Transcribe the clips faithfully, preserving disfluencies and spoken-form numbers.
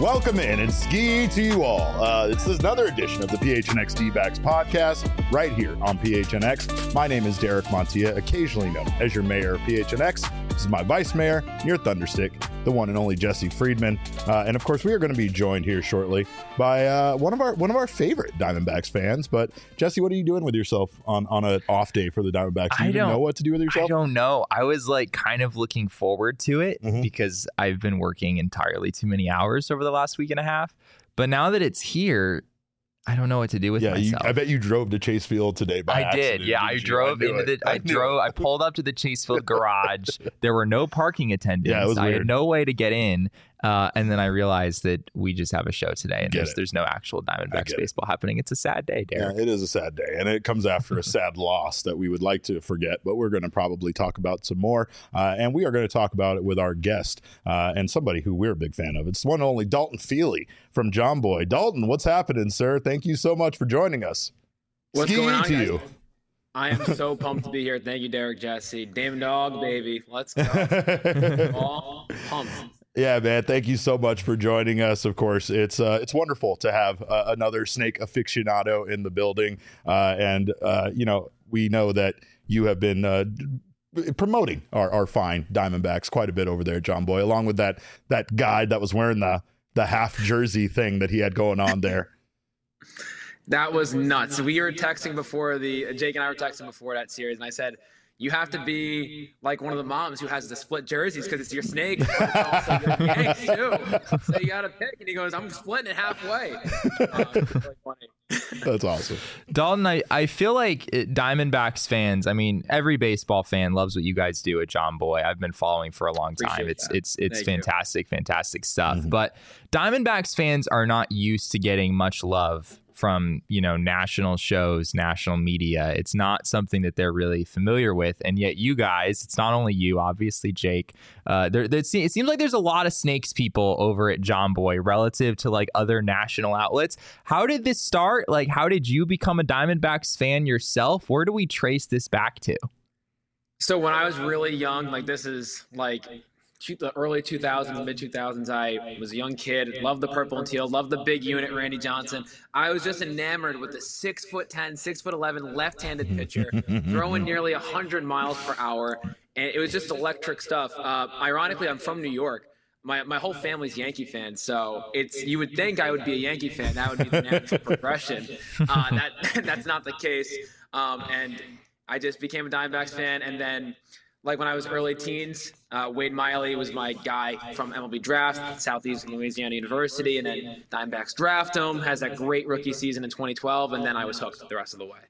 Welcome in and ski to you all. Uh, this is another edition of the P H N X D-Backs podcast right here on P H N X. My name is Derek Montilla, occasionally known as your mayor of P H N X. This is my vice mayor, your thunderstick, the one and only Jesse Friedman. Uh, and of course, we are going to be joined here shortly by uh, one of our one of our favorite Diamondbacks fans. But Jesse, what are you doing with yourself on, on an off day for the Diamondbacks? Do you I even don't know what to do with yourself? I don't know. I was like kind of looking forward to it Mhm. because I've been working entirely too many hours over the last week and a half. But now that it's here, I don't know what to do with Yeah, you, myself. I bet you drove to Chase Field today by I accident. did. Yeah, I didn't you? drove knew into it. the. I, knew drove. it. I pulled up to the Chasefield garage. There were no parking attendants. Yeah, it was I weird. had no way to get in. Uh, and then I realized that we just have a show today, and Get there's, it. there's no actual I Diamondbacks get it. baseball happening. It's a sad day, Yeah, Derek. it is a sad day, and it comes after a sad loss that we would like to forget, but we're going to probably talk about some more, uh, and we are going to talk about it with our guest uh, and somebody who we're a big fan of. It's the one and only Dalton Feely from John Boy. Dalton, what's happening, sir? Thank you so much for joining us. What's Ski going on, to guys? you. I am so pumped to be here. Thank you, Derek Jesse. Damn dog, baby. Let's go. All pumped. Yeah, man. Thank you so much for joining us. Of course, it's uh, it's wonderful to have uh, another snake aficionado in the building, uh, and uh, you know we know that you have been uh, d- promoting our, our fine Diamondbacks quite a bit over there, John Boy, along with that that guy that was wearing the the half jersey thing that he had going on there. That was nuts. We were texting before the Jake and I were texting before that series, and I said, you have to be like one of the moms who has the split jerseys because it's your snake, but it's also your Yanks too. So you got to pick. And he goes, I'm splitting it halfway. Uh, it's really funny. That's awesome. Dalton, I, I feel like it, Diamondbacks fans, I mean, every baseball fan loves what you guys do at John Boy. I've been following for a long time. Appreciate It's that. it's it's Thank you. fantastic, fantastic stuff. Mhm. But Diamondbacks fans are not used to getting much love from, you know, national shows, national media. It's not something that they're really familiar with. And yet you guys, it's not only you, obviously, Jake, uh, there, there, it seems like there's a lot of Snakes people over at John Boy relative to like other national outlets. How did this start? Like, how did you become a Diamondbacks fan yourself? Where do we trace this back to? So when I was really young, like this is like two- the early two thousands, mid two thousands, I was a young kid, loved the purple and teal, loved the big unit, Randy Johnson. I was just enamored with the six foot ten, six foot eleven left-handed pitcher, throwing nearly one hundred miles per hour. And it was just electric stuff. Uh, ironically, I'm from New York. My, my whole family's Yankee fans, so it's you would think I would be a Yankee fan. That would be the natural progression. Uh, that that's not the case. Um, and I just became a Diamondbacks fan, and then like when I was early teens, uh, Wade Miley was my guy from M L B Draft, Southeast Louisiana University, and then Diamondbacks draft him, has that great rookie season in twenty twelve, and then I was hooked the rest of the way.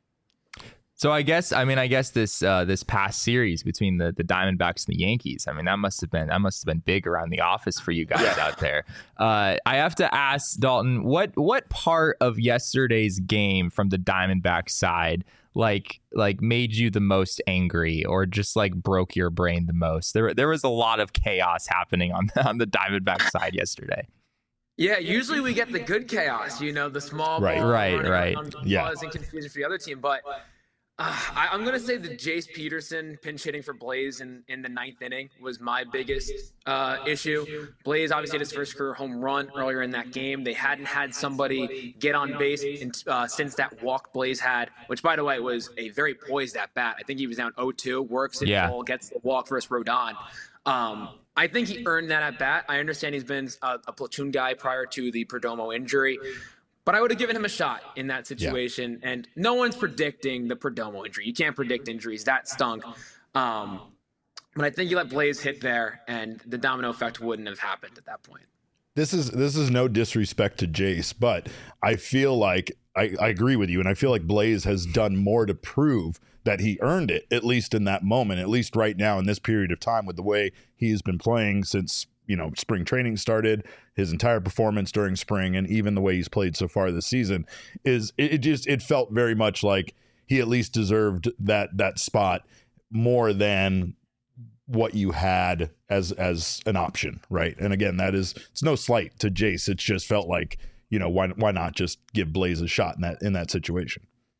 So I guess I mean I guess this uh, this past series between the, the Diamondbacks and the Yankees, I mean that must have been that must have been big around the office for you guys out there. Uh, I have to ask Dalton, what what part of yesterday's game from the Diamondbacks side like like made you the most angry or just like broke your brain the most? There there was a lot of chaos happening on on the Diamondbacks side yesterday. Yeah, usually we get the good chaos, you know, the small Right. ball Right, running right. around, Yeah. causing confusion for the other team, but. Uh, I, I'm going to say the Jace Peterson pinch hitting for Blaze in, in the ninth inning was my biggest uh, issue. Blaze obviously had his first career home run earlier in that game. They hadn't had somebody get on base in, uh, since that walk Blaze had, which, by the way, was a very poised at bat. I think he was down oh two, works it Yeah. full, gets the walk versus Rodon. Um, I think he earned that at bat. I understand he's been a, a platoon guy prior to the Perdomo injury. But I would have given him a shot in that situation. Yeah. And no one's predicting the Perdomo injury. You can't predict injuries. That stunk. Um, but I think you let Blaze hit there, and the domino effect wouldn't have happened at that point. This is this is no disrespect to Jace, but I feel like I, I agree with you, and I feel like Blaze has done more to prove that he earned it, at least in that moment, at least right now in this period of time with the way he's been playing since, you know, spring training started, his entire performance during spring, and even the way he's played so far this season is it, it just it felt very much like he at least deserved that that spot more than what you had as as an option, right? And again, that is it's no slight to Jace. It's just felt like, you know, why why not just give Blaze a shot in that in that situation?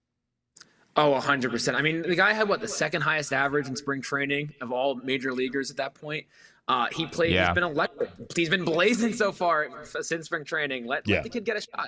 Oh, one hundred percent. I mean, the guy had, what, the second highest average in spring training of all major leaguers at that point. Uh, he played. Yeah. He's been electric. He's been blazing so far since spring training. Let, Yeah. let the kid get a shot.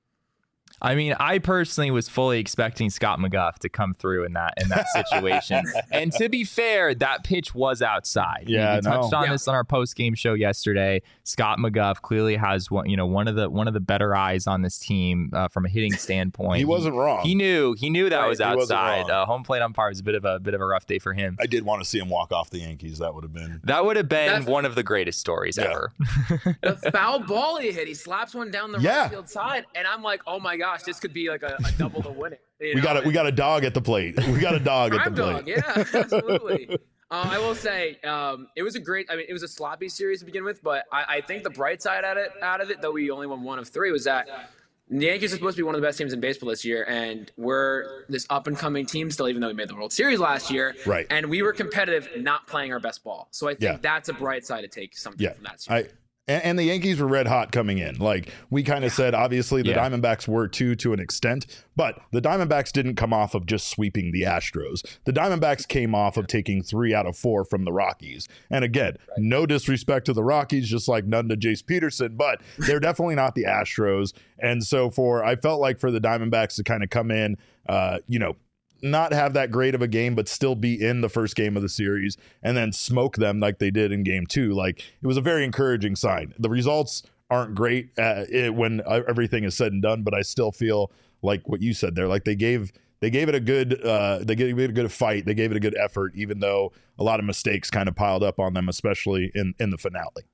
I mean, I personally was fully expecting Scott McGough to come through in that in that situation. And to be fair, that pitch was outside. Yeah, we, we no. touched on Yeah. this on our post game show yesterday. Scott McGough clearly has one, you know, one of the one of the better eyes on this team uh, from a hitting standpoint. He wasn't wrong. He knew he knew that Right, was he wasn't outside. wrong. Uh, home plate umpire was a bit of a bit of a rough day for him. I did want to see him walk off the Yankees. That would have been. That would have been That's- one of the greatest stories Yeah. ever. The foul ball he hit, he slaps one down the Yeah. right field side, and I'm like, oh my gosh, this could be like a, a double to win it. You We know? got a, we got a dog at the plate. We got a dog at the Crime plate. dog, yeah, absolutely. uh, I will say um, it was a great. I mean, it was a sloppy series to begin with, but I, I think the bright side out of it, out of it, though we only won one of three, was that the Yankees are supposed to be one of the best teams in baseball this year, and we're this up and coming team still, even though we made the World Series last year. Right. And we were competitive, not playing our best ball. So I think Yeah. that's a bright side to take something Yeah, from that series. I and, and the Yankees were red hot coming in. Like we kind of said, obviously the Yeah. Diamondbacks were too to an extent, but the Diamondbacks didn't come off of just sweeping the Astros. The Diamondbacks came off of taking three out of four from the Rockies. And again, no disrespect to the Rockies, just like none to Jace Peterson, but they're definitely not the Astros. And so for I felt like for the Diamondbacks to kind of come in, uh, you know, not have that great of a game, but still be in the first game of the series and then smoke them like they did in game two. Like it was a very encouraging sign. The results aren't great uh, it, when everything is said and done, but I still feel like what you said there, like they gave, they gave it a good, uh, they gave it a good fight. They gave it a good effort, even though a lot of mistakes kind of piled up on them, especially in, in the finale.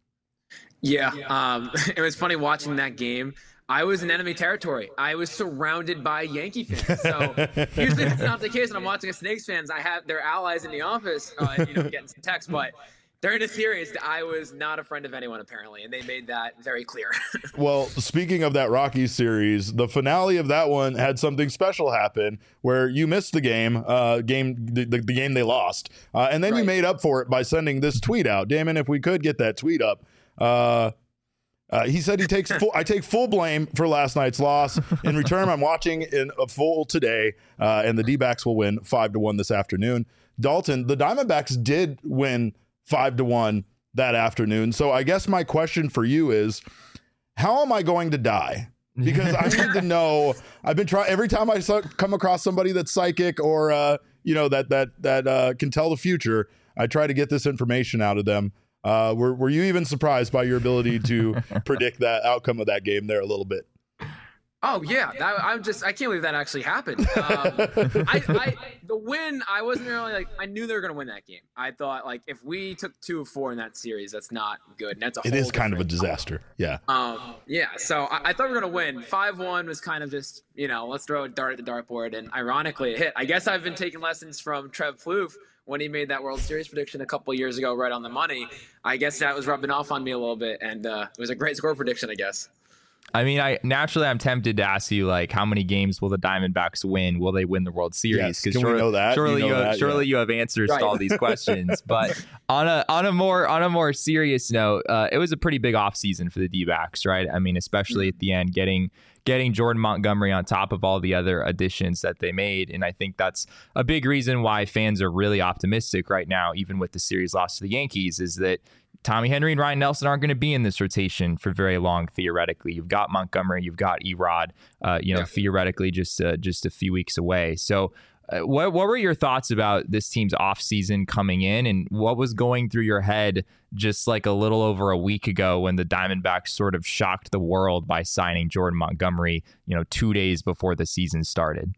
Yeah, um, it was funny watching that game. I was in enemy territory. I was surrounded by Yankee fans. So usually that's not the case. When I'm watching a Snakes fans, I have their allies in the office, uh, you know, getting some texts. But during the series, I was not a friend of anyone apparently, and they made that very clear. Well, speaking of that Rockies series, the finale of that one had something special happen where you missed the game, uh, game the, the, the game they lost, uh, and then you Right. made up for it by sending this tweet out. Damon, if we could get that tweet up. Uh, Uh, he said he takes full, I take full blame for last night's loss. In return, I'm watching in a full today, uh, and the D-backs will win five to one this afternoon. Dalton, the Diamondbacks did win five to one that afternoon. So I guess my question for you is, how am I going to die? Because I need to know. I've been trying every time I saw, come across somebody that's psychic or uh, you know that that that uh, can tell the future. I try to get this information out of them. Uh, were were you even surprised by your ability to predict that outcome of that game there a little bit? Oh yeah, that, I'm just I can't believe that actually happened. Um, I, I the win, I wasn't really like I knew they were gonna win that game. I thought like if we took two of four in that series, that's not good. And that's a It whole is kind of a different- disaster. Yeah. Um, yeah, so I, I thought we were gonna win. Five one was kind of just you know let's throw a dart at the dartboard, and ironically it hit. I guess I've been taking lessons from Trev Plouffe when he made that World Series prediction a couple of years ago, right on the money. I guess that was rubbing off on me a little bit, and uh, it was a great score prediction, I guess. I mean, I naturally I'm tempted to ask you like, how many games will the Diamondbacks win? Will they win the World Series? Yes. Can we surely, know that? surely You you, know have, that, surely yeah. you have answers Right. to all these questions. But on a on a more on a more serious note, uh, it was a pretty big offseason for the D-backs, right? I mean, especially at the end, getting getting Jordan Montgomery on top of all the other additions that they made. And I think that's a big reason why fans are really optimistic right now, even with the series loss to the Yankees, is that Tommy Henry and Ryan Nelson aren't going to be in this rotation for very long, theoretically. You've got Montgomery, you've got Erod, uh, you know, Yeah. theoretically just uh, just a few weeks away. So uh, what what were your thoughts about this team's offseason coming in, and what was going through your head just like a little over a week ago when the Diamondbacks sort of shocked the world by signing Jordan Montgomery, you know, two days before the season started?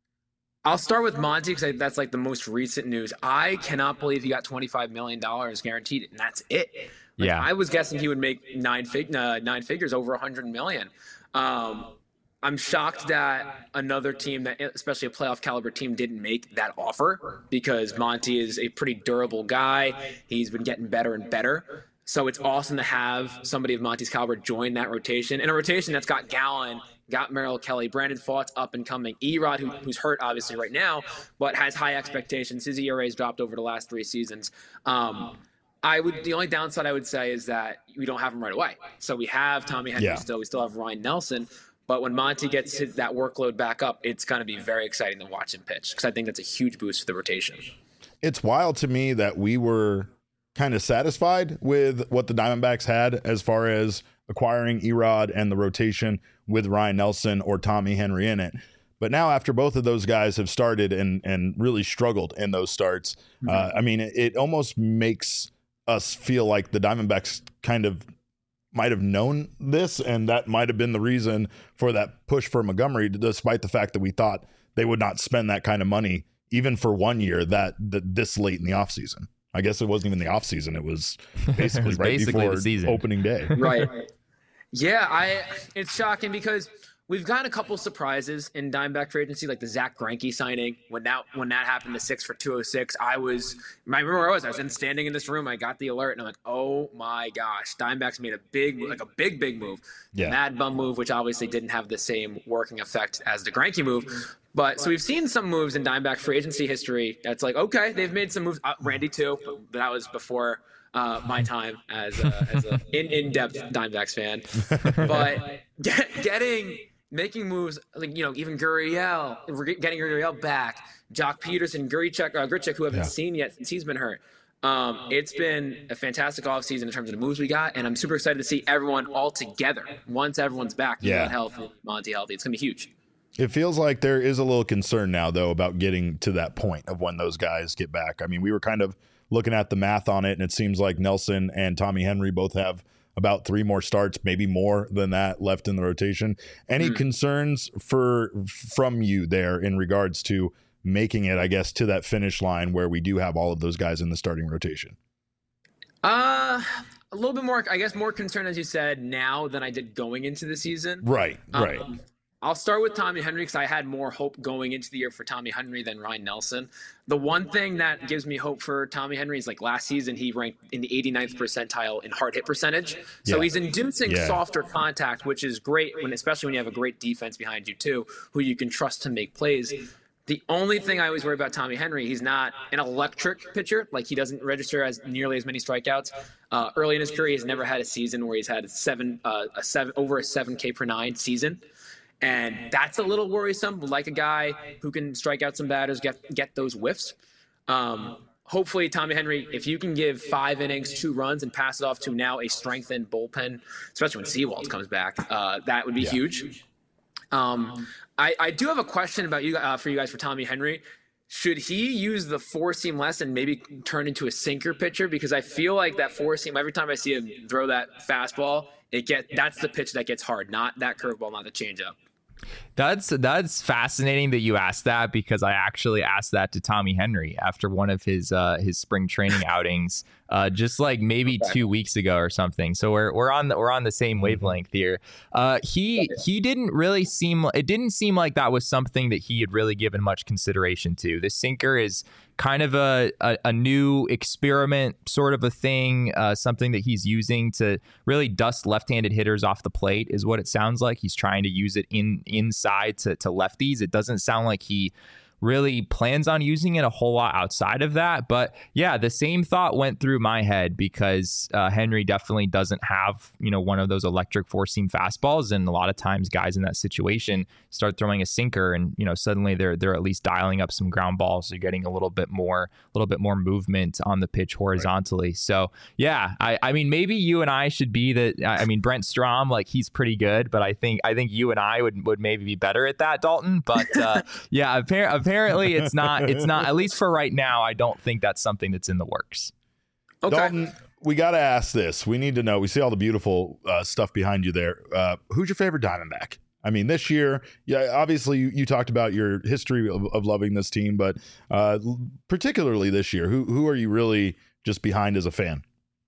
I'll start with Monty because that's like the most recent news. I cannot believe he got twenty-five million dollars guaranteed, and that's it. Like, Yeah. I was guessing he would make nine fig uh, nine figures, over one hundred million. Um, I'm shocked that another team, that especially a playoff caliber team, didn't make that offer because Monty is a pretty durable guy. He's been getting better and better. So it's awesome to have somebody of Monty's caliber join that rotation, in a rotation that's got Gallen, got Merrill Kelly, Brandon Pfaadt's up and coming, Erod, who, who's hurt obviously right now, but has high expectations. His E R A's dropped over the last three seasons. Um, I would the only downside I would say is that we don't have him right away. So we have Tommy Henry Yeah. still, we still have Ryan Nelson, but when Monty gets his, that workload back up, it's going to be very exciting to watch him pitch because I think that's a huge boost for the rotation. It's wild to me that we were kind of satisfied with what the Diamondbacks had as far as acquiring Erod and the rotation with Ryan Nelson or Tommy Henry in it. But now after both of those guys have started and and really struggled in those starts, mm-hmm. uh, I mean, it, it almost makes us feel like the Diamondbacks kind of might have known this, and that might have been the reason for that push for Montgomery, despite the fact that we thought they would not spend that kind of money even for one year that, that this late in the offseason. I guess it wasn't even the offseason. It was basically it was right basically before the season. Opening day. Right. Yeah, I. It's shocking because we've gotten a couple surprises in Diamondback free agency, like the Zach Greinke signing. When that when that happened to six for two oh six, I was I remember where I was. I was in standing in this room. I got the alert, and I'm like, oh my gosh, Diamondbacks made a big, like a big, big move. Yeah. Mad bum move, which obviously didn't have the same working effect as the Greinke move. But so we've seen some moves in Diamondback free agency history. That's like, okay, they've made some moves. Uh, Randy too, but that was before uh, my time as a, as a in in depth Diamondbacks fan. But get, getting. Making moves like, you know, even Gurriel, getting Gurriel back, Jock Peterson, Grichuk, uh, Grichuk, who I haven't yeah. seen yet since he's been hurt. Um, it's been a fantastic offseason in terms of the moves we got, and I'm super excited to see everyone all together once everyone's back. Yeah. Healthy, Monty healthy. It's going to be huge. It feels like there is a little concern now, though, about getting to that point of when those guys get back. I mean, we were kind of looking at the math on it, and it seems like Nelson and Tommy Henry both have about three more starts, maybe more than that left in the rotation. Any mm. concerns for from you there in regards to making it, I guess, to that finish line where we do have all of those guys in the starting rotation? Uh, a little bit more, I guess, more concerned, as you said, now than I did going into the season. Right, right. Um, I'll start with Tommy Henry because I had more hope going into the year for Tommy Henry than Ryan Nelson. The one thing that gives me hope for Tommy Henry is like last season, he ranked in the eighty-ninth percentile in hard hit percentage. So yeah. he's inducing yeah. softer contact, which is great, when, especially when you have a great defense behind you too, who you can trust to make plays. The only thing I always worry about Tommy Henry, he's not an electric pitcher. Like he doesn't register as nearly as many strikeouts. Uh, early in his career, he's never had a season where he's had seven, uh, a seven over a seven K per nine season. And that's a little worrisome, like a guy who can strike out some batters, get get those whiffs. Um, hopefully, Tommy Henry, if you can give five innings, two runs, and pass it off to now a strengthened bullpen, especially when Seawald comes back, uh, that would be yeah. huge. Um, I, I do have a question about you uh, for you guys for Tommy Henry. Should he use the four seam less and maybe turn into a sinker pitcher? Because I feel like that four seam, every time I see him throw that fastball, it get that's the pitch that gets hard, not that curveball, not the changeup. That's that's fascinating that you asked that, because I actually asked that to Tommy Henry after one of his uh, his spring training outings, uh, just like maybe okay. two weeks ago or something. So we're we're on the we're on the same wavelength here. Uh, he he didn't really seem it didn't seem like that was something that he had really given much consideration to. The sinker is kind of a, a, a new experiment sort of a thing, uh, something that he's using to really dust left-handed hitters off the plate is what it sounds like. He's trying to use it in inside to, to lefties. It doesn't sound like he really plans on using it a whole lot outside of that. But yeah, the same thought went through my head, because uh, Henry definitely doesn't have, you know, one of those electric four seam fastballs. And a lot of times guys in that situation start throwing a sinker, and, you know, suddenly they're, they're at least dialing up some ground balls. They're getting a little bit more, a little bit more movement on the pitch horizontally. Right. So yeah, I, I mean, maybe you and I should be the, I mean, Brent Strom, like he's pretty good, but I think, I think you and I would, would maybe be better at that, Dalton. But uh, yeah, apparently, Apparently it's not, it's not, at least for right now, I don't think that's something that's in the works. Okay. Dalton, we got to ask this. We need to know, we see all the beautiful uh, stuff behind you there. Uh, who's your favorite Diamondback? I mean, this year, yeah, obviously you, you talked about your history of, of loving this team, but uh, particularly this year, who, who are you really just behind as a fan?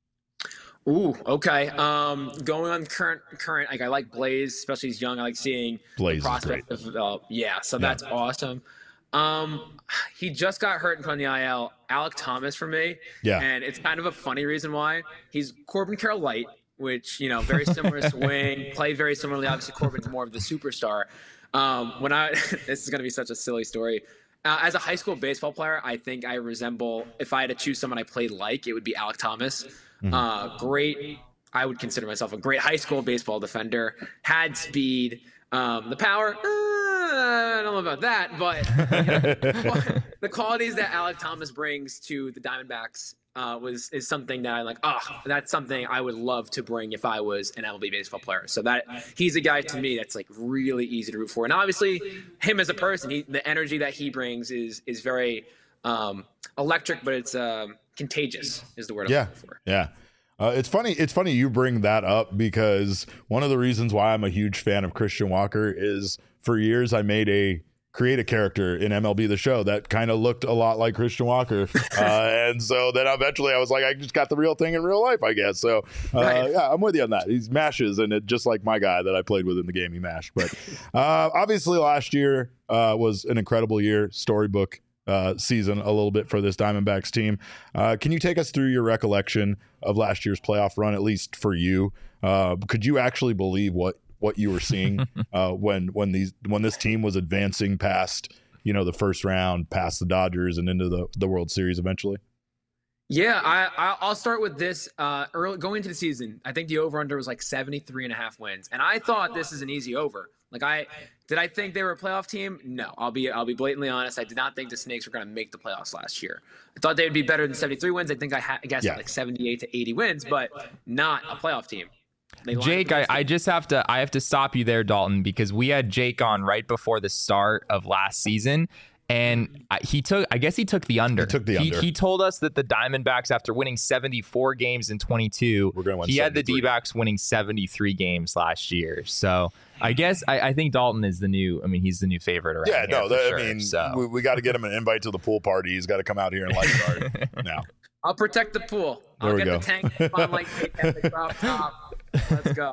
Ooh, okay. Um, going on current, current, like I like Blaze, especially he's young. I like seeing Blaze the prospect of, uh, yeah, so yeah. that's awesome. Um, he just got hurt in front of the I L. Alek Thomas for me. Yeah. And it's kind of a funny reason why. He's Corbin Carroll light, which, you know, very similar swing, play very similarly. Obviously, Corbin's more of the superstar. Um, when I, this is going to be such a silly story. Uh, as a high school baseball player, I think I resemble, if I had to choose someone I played like, it would be Alek Thomas. Mm-hmm. Uh, great. I would consider myself a great high school baseball defender. Had speed, um, the power. Uh, I don't know about that, but you know, the qualities that Alek Thomas brings to the Diamondbacks uh, was is something that I'm like, oh, that's something I would love to bring if I was an M L B baseball player. So that he's a guy to me that's like really easy to root for. And obviously, him as a person, he, the energy that he brings is is very um, electric, but it's um, contagious is the word I'm yeah. looking for. Yeah. Uh, it's funny. It's funny you bring that up because one of the reasons why I'm a huge fan of Christian Walker is for years I made a create a character in M L B The Show that kind of looked a lot like Christian Walker. Uh, and so then eventually I was like, I just got the real thing in real life, I guess. So uh, right. yeah, I'm with you on that. He mashes, and it just like my guy that I played with in the game, he mashed. But uh, obviously last year uh, was an incredible year, storybook uh, season a little bit for this Diamondbacks team. Uh, can you take us through your recollection of last year's playoff run, at least for you? Uh, could you actually believe what what you were seeing uh, when when these when this team was advancing past, you know, the first round, past the Dodgers and into the, the World Series eventually? Yeah, I, I'll start with this. Uh, early going into the season, I think the over-under was like seventy-three and a half wins. And I thought this is an easy over. Like I did I think they were a playoff team? No, I'll be I'll be blatantly honest. I did not think the Snakes were going to make the playoffs last year. I thought they would be better than seventy-three wins. I think I, ha- I guessed yeah. like seventy-eight to eighty wins, but not a playoff team. Jake, I, I just have to I have to stop you there, Dalton, because we had Jake on right before the start of last season, and I, he took I guess he took the under. He took the he, under. He told us that the Diamondbacks, after winning seventy-four games in twenty-two, We're gonna win he had the seventy-three. D-backs winning seventy-three games last year. So I guess I, I think Dalton is the new. I mean, he's the new favorite around yeah, here. no, for that, sure, I mean, so. we, we got to get him an invite to the pool party. He's got to come out here and lifeguard now. I'll protect the pool. There I'll we get go. the tank on like at the drop top. Let's go.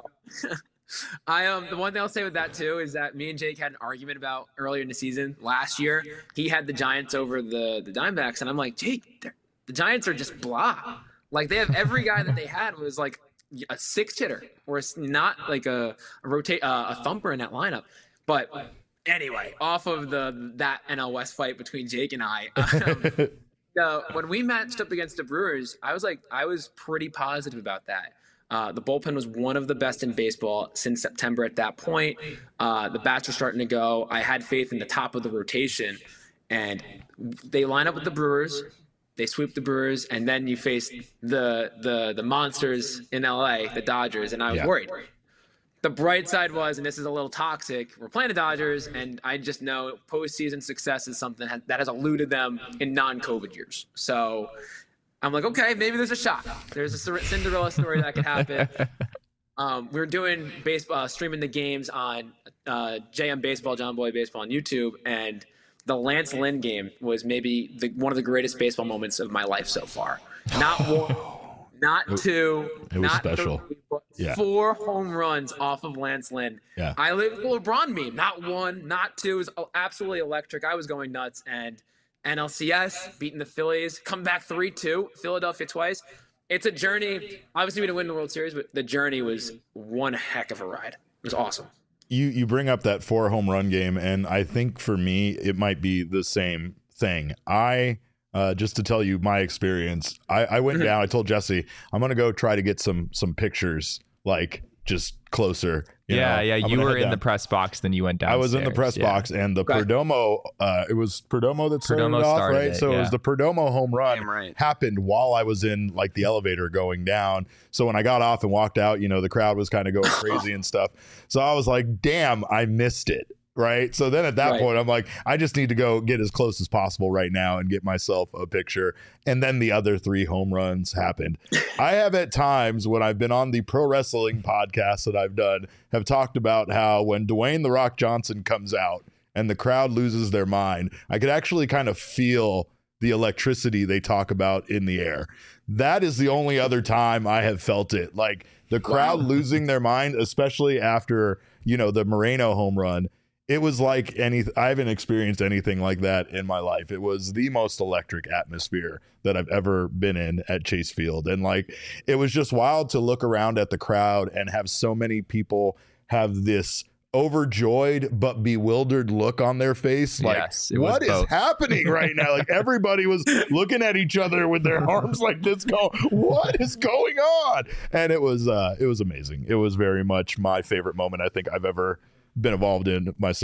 I um the one thing I'll say with that too is that me and Jake had an argument about earlier in the season last year. He had the Giants over the the Diamondbacks, and I'm like, Jake, the Giants are just blah. Like they have every guy that they had was like a six hitter or it's not like a a rotate uh, a thumper in that lineup. But anyway, off of the that N L West fight between Jake and I. Um, Uh, when we matched up against the Brewers, I was like, I was pretty positive about that. Uh, the bullpen was one of the best in baseball since September at that point. Uh, the bats were starting to go. I had faith in the top of the rotation. And they line up with the Brewers. They sweep the Brewers. And then you face the the the monsters in L A, the Dodgers. And I was Yeah. worried. The bright side was, and this is a little toxic, we're playing the Dodgers, and I just know postseason success is something that has eluded them in non-COVID years. So I'm like, okay, maybe there's a shot. There's a Cinderella story that could happen. Um, we were doing baseball, uh, streaming the games on uh, J M Baseball, John Boy Baseball on YouTube, and the Lance Lynn game was maybe the, one of the greatest baseball moments of my life so far. Not one. Not two, it was not special. three, but Yeah. four home runs off of Lance Lynn. Yeah. I lived the LeBron meme. Not one, not two. It was absolutely electric. I was going nuts. And N L C S beating the Phillies, come back three two, Philadelphia twice. It's a journey. Obviously, we didn't win the World Series, but the journey was one heck of a ride. It was awesome. You you bring up that four home run game, and I think for me it might be the same thing. I uh, just to tell you my experience, I, I went down. I told Jesse I'm gonna go try to get some some pictures, like just closer. You yeah, know? yeah. I'm You gonna were head in the down. press box, then you went down. I was in the press yeah. box, and the Okay. Perdomo. Uh, it was Perdomo that started Perdomo it off, started right? it, so it yeah. was the Perdomo home run Damn right. happened while I was in like the elevator going down. So when I got off and walked out, you know, the crowd was kind of going crazy and stuff. So I was like, "Damn, I missed it." Right. So then at that Right. point, I'm like, I just need to go get as close as possible right now and get myself a picture. And then the other three home runs happened. I have at times when I've been on the pro wrestling podcasts that I've done, have talked about how when Dwayne The Rock Johnson comes out and the crowd loses their mind, I could actually kind of feel the electricity they talk about in the air. That is the only other time I have felt it. Like the crowd Wow. losing their mind, especially after, you know, the Moreno home run. It was like any, I haven't experienced anything like that in my life. It was the most electric atmosphere that I've ever been in at Chase Field. And like, it was just wild to look around at the crowd and have so many people have this overjoyed but bewildered look on their face. Like, Yes, it was what is both. happening right now? Like everybody was looking at each other with their arms like this going, what is going on? And it was, uh, it was amazing. It was very much my favorite moment I think I've ever been involved in myself.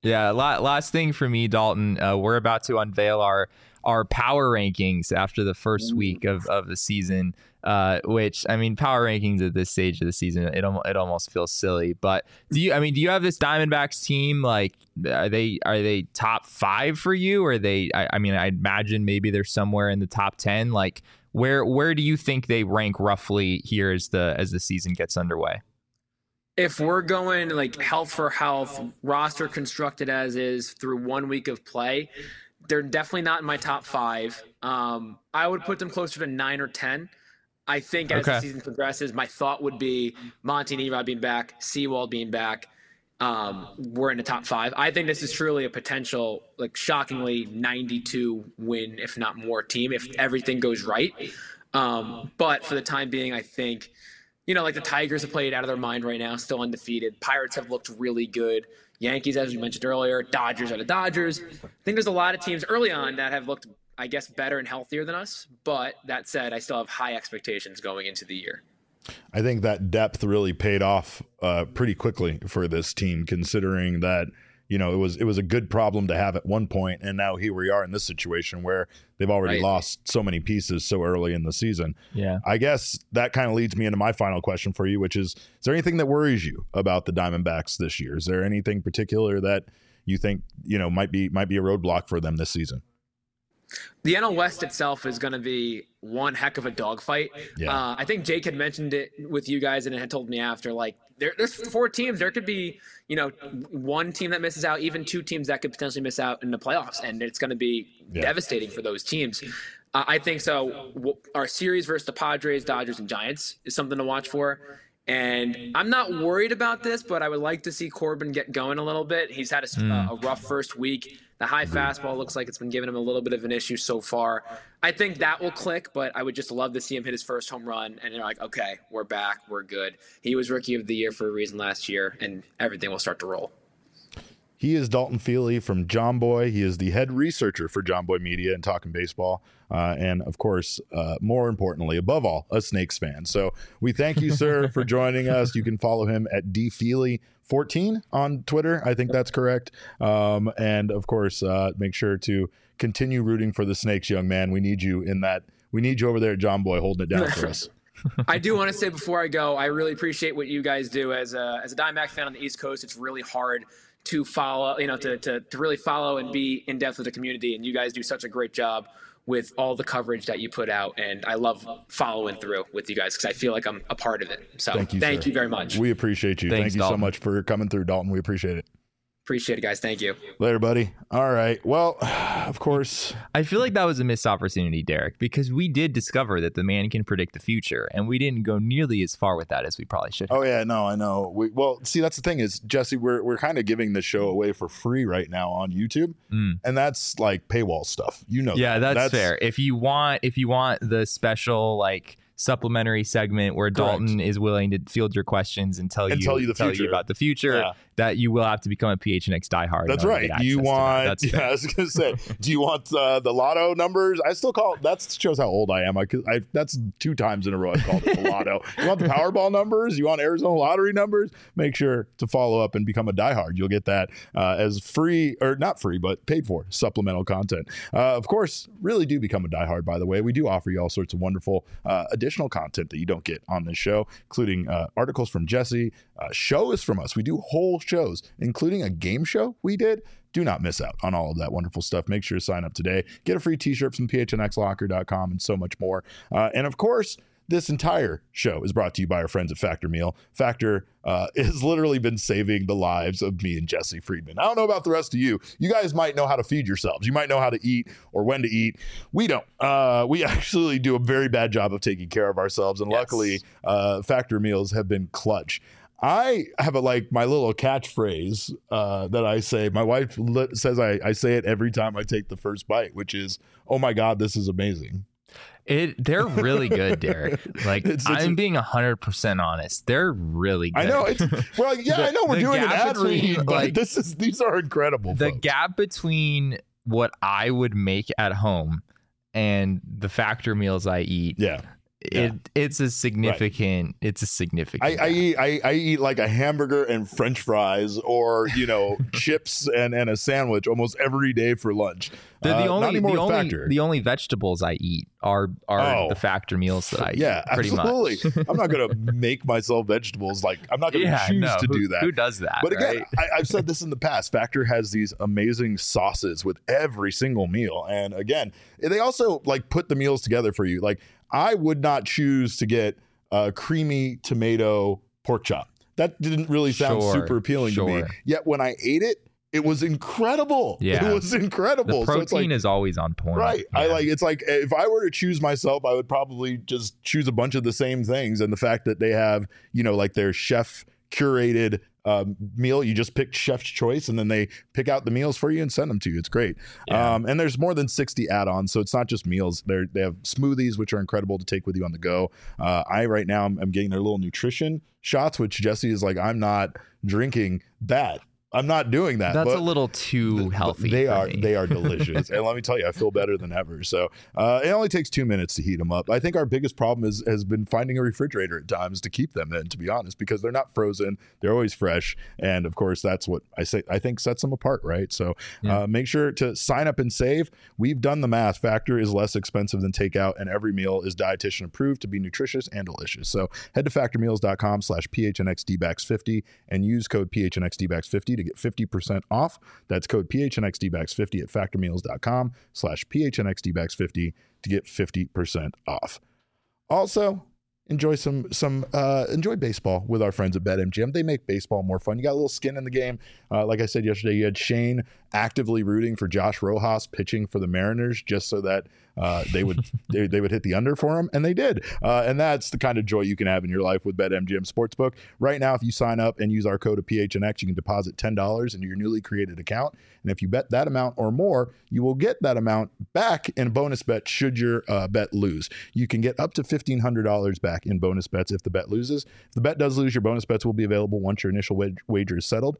Yeah. La- last thing for me, Dalton. Uh, we're about to unveil our our power rankings after the first week of, of the season. Uh, which I mean, power rankings at this stage of the season, it almost it almost feels silly. But do you? I mean, do you have this Diamondbacks team? Like, are they are they top five for you? Or are they? I, I mean, I imagine maybe they're somewhere in the top ten. Like, where where do you think they rank roughly here as the as the season gets underway? If we're going like health for health, roster constructed as is through one week of play, they're definitely not in my top five. Um, I would put them closer to nine or ten. I think as Okay. the season progresses, my thought would be Monty and Erod being back, Sewald being back. Um, we're in the top five. I think this is truly a potential, like shockingly ninety-two win, if not more, team if everything goes right. Um, but for the time being, I think, you know, like the Tigers have played out of their mind right now, still undefeated. Pirates have looked really good. Yankees, as we mentioned earlier, Dodgers are the Dodgers. I think there's a lot of teams early on that have looked, I guess, better and healthier than us. But that said, I still have high expectations going into the year. I think that depth really paid off uh, pretty quickly for this team, considering that, you know, it was it was a good problem to have at one point, and now here we are in this situation where they've already Right. lost so many pieces so early in the season. Yeah. I guess that kind of leads me into my final question for you, which is, is there anything that worries you about the Diamondbacks this year? Is there anything particular that you think, you know, might be might be a roadblock for them this season? The N L West itself is going to be one heck of a dogfight. Yeah. Uh, I think Jake had mentioned it with you guys and had told me after, like, there, there's four teams. There could be, you know, one team that misses out, even two teams that could potentially miss out in the playoffs, and it's going to be Yeah. devastating for those teams. Uh, I think so. W- Our series versus the Padres, Dodgers, and Giants is something to watch for. And I'm not worried about this, but I would like to see Corbin get going a little bit. He's had a, Mm. a rough first week. The high fastball looks like it's been giving him a little bit of an issue so far. I think that will click, but I would just love to see him hit his first home run. And they're like, okay, we're back. We're good. He was Rookie of the Year for a reason last year, and everything will start to roll. He is Dalton Feely from John Boy. He is the head researcher for John Boy Media and Talking Baseball. Uh, and, of course, uh, more importantly, above all, a Snakes fan. So we thank you, sir, for joining us. You can follow him at d feely fourteen on Twitter. I think that's correct. Um, and, of course, uh, make sure to continue rooting for the Snakes, young man. We need you in that. We need you over there at John Boy holding it down for us. I do want to say before I go, I really appreciate what you guys do. As a, as a Diamondback fan on the East Coast, it's really hard to follow, you know, to, to, to really follow and be in depth with the community. And you guys do such a great job with all the coverage that you put out. And I love following through with you guys because I feel like I'm a part of it. So Thank you, thank sir. you very much. We appreciate you. Thanks, Thank you Dalton. so much for coming through, Dalton. We appreciate it. Appreciate it, guys. Thank you. Later, buddy. All right. Well, of course. I feel like that was a missed opportunity, Derek, because we did discover that the man can predict the future, and we didn't go nearly as far with that as we probably should have. Oh yeah, no, I know. We, well, see, that's the thing is, Jesse, we're we're kind of giving the show away for free right now on YouTube, Mm. and that's like paywall stuff. You know, Yeah, that. that's, fair. If you want, if you want the special like supplementary segment where Dalton is willing to field your questions and tell And you tell you the future. about the future, Yeah. that you will have to become a P H N X diehard. in That's order to right. get Do you access to that. want? That's Yeah, fair. I was gonna say. Do you want uh, the lotto numbers? I still call it. That shows how old I am. I, I that's two times in a row I've called it the lotto. You want the Powerball numbers? You want Arizona lottery numbers? Make sure to follow up and become a diehard. You'll get that uh, as free or not free, but paid for supplemental content. Uh, of course, really do become a diehard. By the way, we do offer you all sorts of wonderful uh, additional content that you don't get on this show, including uh, articles from Jesse, uh, shows from us. We do whole shows, including a game show we did. Do not miss out on all of that wonderful stuff. Make sure to sign up today. Get a free t-shirt from p h n x locker dot com and so much more. Uh, and of course, this entire show is brought to you by our friends at Factor Meal. Factor uh, has literally been saving the lives of me and Jesse Friedman. I don't know about the rest of you. You guys might know how to feed yourselves. You might know how to eat or when to eat. We don't. Uh, we actually do a very bad job of taking care of ourselves. And Yes. luckily, uh, Factor meals have been clutch. I have a like my little catchphrase uh, that I say. My wife li- says I, I say it every time I take the first bite, which is, "Oh my God, this is amazing." It they're really good, Derek. Like It's- it's- I'm being a hundred percent honest. They're really good. I know it's well, yeah, The- I know we're the doing an gap ad read, between, but like, this is these are incredible. the folks. gap between what I would make at home and the Factor meals I eat yeah, it Yeah. it's a significant it's a significant I, I eat I, I eat like a hamburger and French fries, or you know, chips and, and a sandwich almost every day for lunch. the, the Uh, not only anymore the with only Factor. the only vegetables I eat are are Oh. the Factor meals that I eat. Yeah, pretty absolutely. much. I'm not gonna make myself vegetables. Like I'm not gonna yeah, choose no, to who, do that. Who does that? But again, right? I, I've said this in the past. Factor has these amazing sauces with every single meal, and again, they also like put the meals together for you. Like I would not choose to get a creamy tomato pork chop. That didn't really sound Sure, super appealing to me. sure. Yet when I ate it, it was incredible. Yeah. It was incredible. the So protein it's like, is always on point. right. I Yeah. like it's like if I were to choose myself, I would probably just choose a bunch of the same things. And the fact that they have, you know, like their chef curated um, meal, you just pick chef's choice and then they pick out the meals for you and send them to you. It's great. Yeah. Um, and there's more than sixty add-ons. So it's not just meals. They're, they have smoothies, which are incredible to take with you on the go. Uh, I right now I'm, I'm getting their little nutrition shots, which Jesse is like, I'm not drinking that. I'm not doing that. That's but a little too healthy. They for are me. they are delicious, and let me tell you, I feel better than ever. So uh, it only takes two minutes to heat them up. I think our biggest problem is has been finding a refrigerator at times to keep them in. To be honest, because they're not frozen, they're always fresh, and of course that's what I say. I think sets them apart, right? So Yeah. uh, make sure to sign up and save. We've done the math. Factor is less expensive than takeout, and every meal is dietitian approved to be nutritious and delicious. So head to factor meals dot com slash P H N X D backs fifty and use code P H N X D backs fifty to get fifty percent off. That's code P H N X D backs fifty at factor meals dot com slash P H N X D backs fifty to get fifty percent off. Also, enjoy some some uh, enjoy baseball with our friends at BetMGM. They make baseball more fun. You got a little skin in the game. Uh, like I said yesterday, you had Shane actively rooting for Josh Rojas pitching for the Mariners just so that uh, they would they, they would hit the under for him, and they did. Uh, and that's the kind of joy you can have in your life with BetMGM Sportsbook. Right now, if you sign up and use our code of P H N X, you can deposit ten dollars into your newly created account. And if you bet that amount or more, you will get that amount back in a bonus bet should your uh, bet lose. You can get up to fifteen hundred dollars back in bonus bets if the bet loses. If the bet does lose, your bonus bets will be available once your initial wag- wager is settled.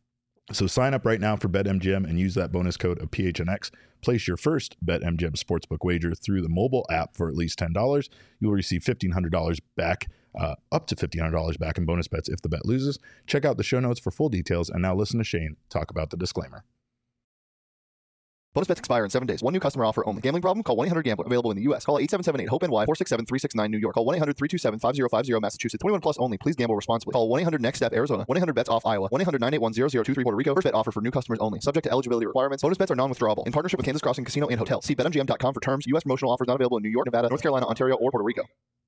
So sign up right now for BetMGM and use that bonus code of P H N X. Place your first BetMGM Sportsbook wager through the mobile app for at least ten dollars. You will receive fifteen hundred dollars back, uh, up to fifteen hundred dollars back in bonus bets if the bet loses. Check out the show notes for full details. And now listen to Shane talk about the disclaimer. Bonus bets expire in seven days. One new customer offer only. Gambling problem? Call one eight hundred gambler. Available in the U S. Call eight seven seven eight hope N Y four six seven three six nine New York. Call one eight hundred three two seven five zero five zero Massachusetts. twenty-one plus only. Please gamble responsibly. Call one eight hundred next step Arizona. one eight hundred bets off Iowa. one eight hundred nine eight one zero zero two three Puerto Rico. First bet offer for new customers only. Subject to eligibility requirements. Bonus bets are non-withdrawable. In partnership with Kansas Crossing Casino and Hotel. See bet M G M dot com for terms. U S promotional offers not available in New York, Nevada, North Carolina, Ontario, or Puerto Rico.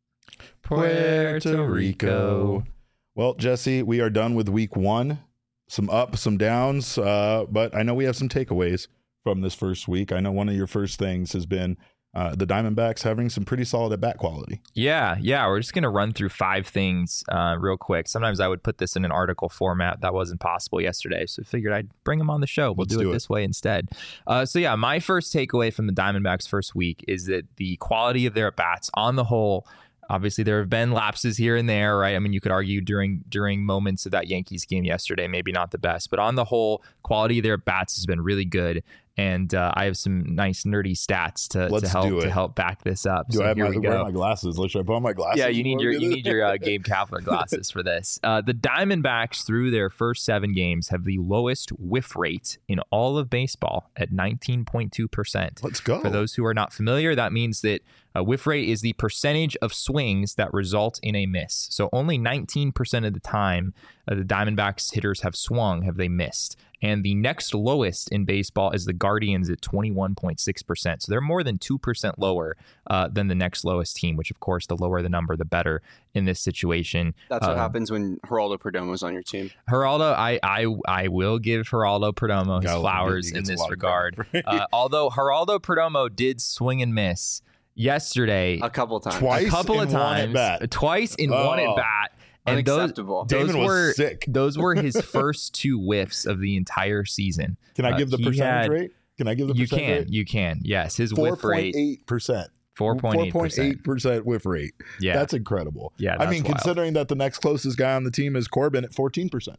Puerto Rico. Well, Jesse, we are done with week one. Some ups, some downs, uh, but I know we have some takeaways from this first week. I know one of your first things has been uh, the Diamondbacks having some pretty solid at bat quality. Yeah, yeah. We're just going to run through five things uh, real quick. Sometimes I would put this in an article format. That wasn't possible yesterday, so I figured I'd bring them on the show. We'll Let's do, do it, it. this way instead. Uh, so yeah, my first takeaway from the Diamondbacks first week is that the quality of their at-bats on the whole, obviously there have been lapses here and there, right? I mean, you could argue during during moments of that Yankees game yesterday, maybe not the best, but on the whole, quality of their at-bats has been really good. And uh, I have some nice nerdy stats to, Let's to help do it. to help back this up. Do so I have here my, we where go. are my glasses? Should I put on my glasses? Yeah, you need before your we you do need this? your uh, Gabe Kapler glasses for this. Uh, the Diamondbacks through their first seven games have the lowest whiff rate in all of baseball at nineteen point two percent. Let's go. For those who are not familiar, that means that a whiff rate is the percentage of swings that result in a miss. So only nineteen percent of the time uh, the Diamondbacks hitters have swung have they missed. And the next lowest in baseball is the Guardians at twenty-one point six percent. So they're more than two percent lower uh, than the next lowest team, which, of course, the lower the number, the better in this situation. That's what Um, happens when Geraldo Perdomo's on your team. Geraldo, I, I I will give Geraldo Perdomo his Gotta love it. flowers He in gets a this lot of regard. credit for it. uh, although Geraldo Perdomo did swing and miss yesterday A couple times. Twice a couple in of one times, at-bat. twice in one Oh. at bat. And those, Unacceptable. those Damon was were sick. those were his first two whiffs of the entire season. Can I Uh, give the he percentage had- rate? Can I give the You percentage can, rate? you can. Yes, his four whiff point rate eight percent. four point eight percent. percent whiff rate. Yeah, That's incredible. Yeah, I that's mean, wild. considering that the next closest guy on the team is Corbin at fourteen percent.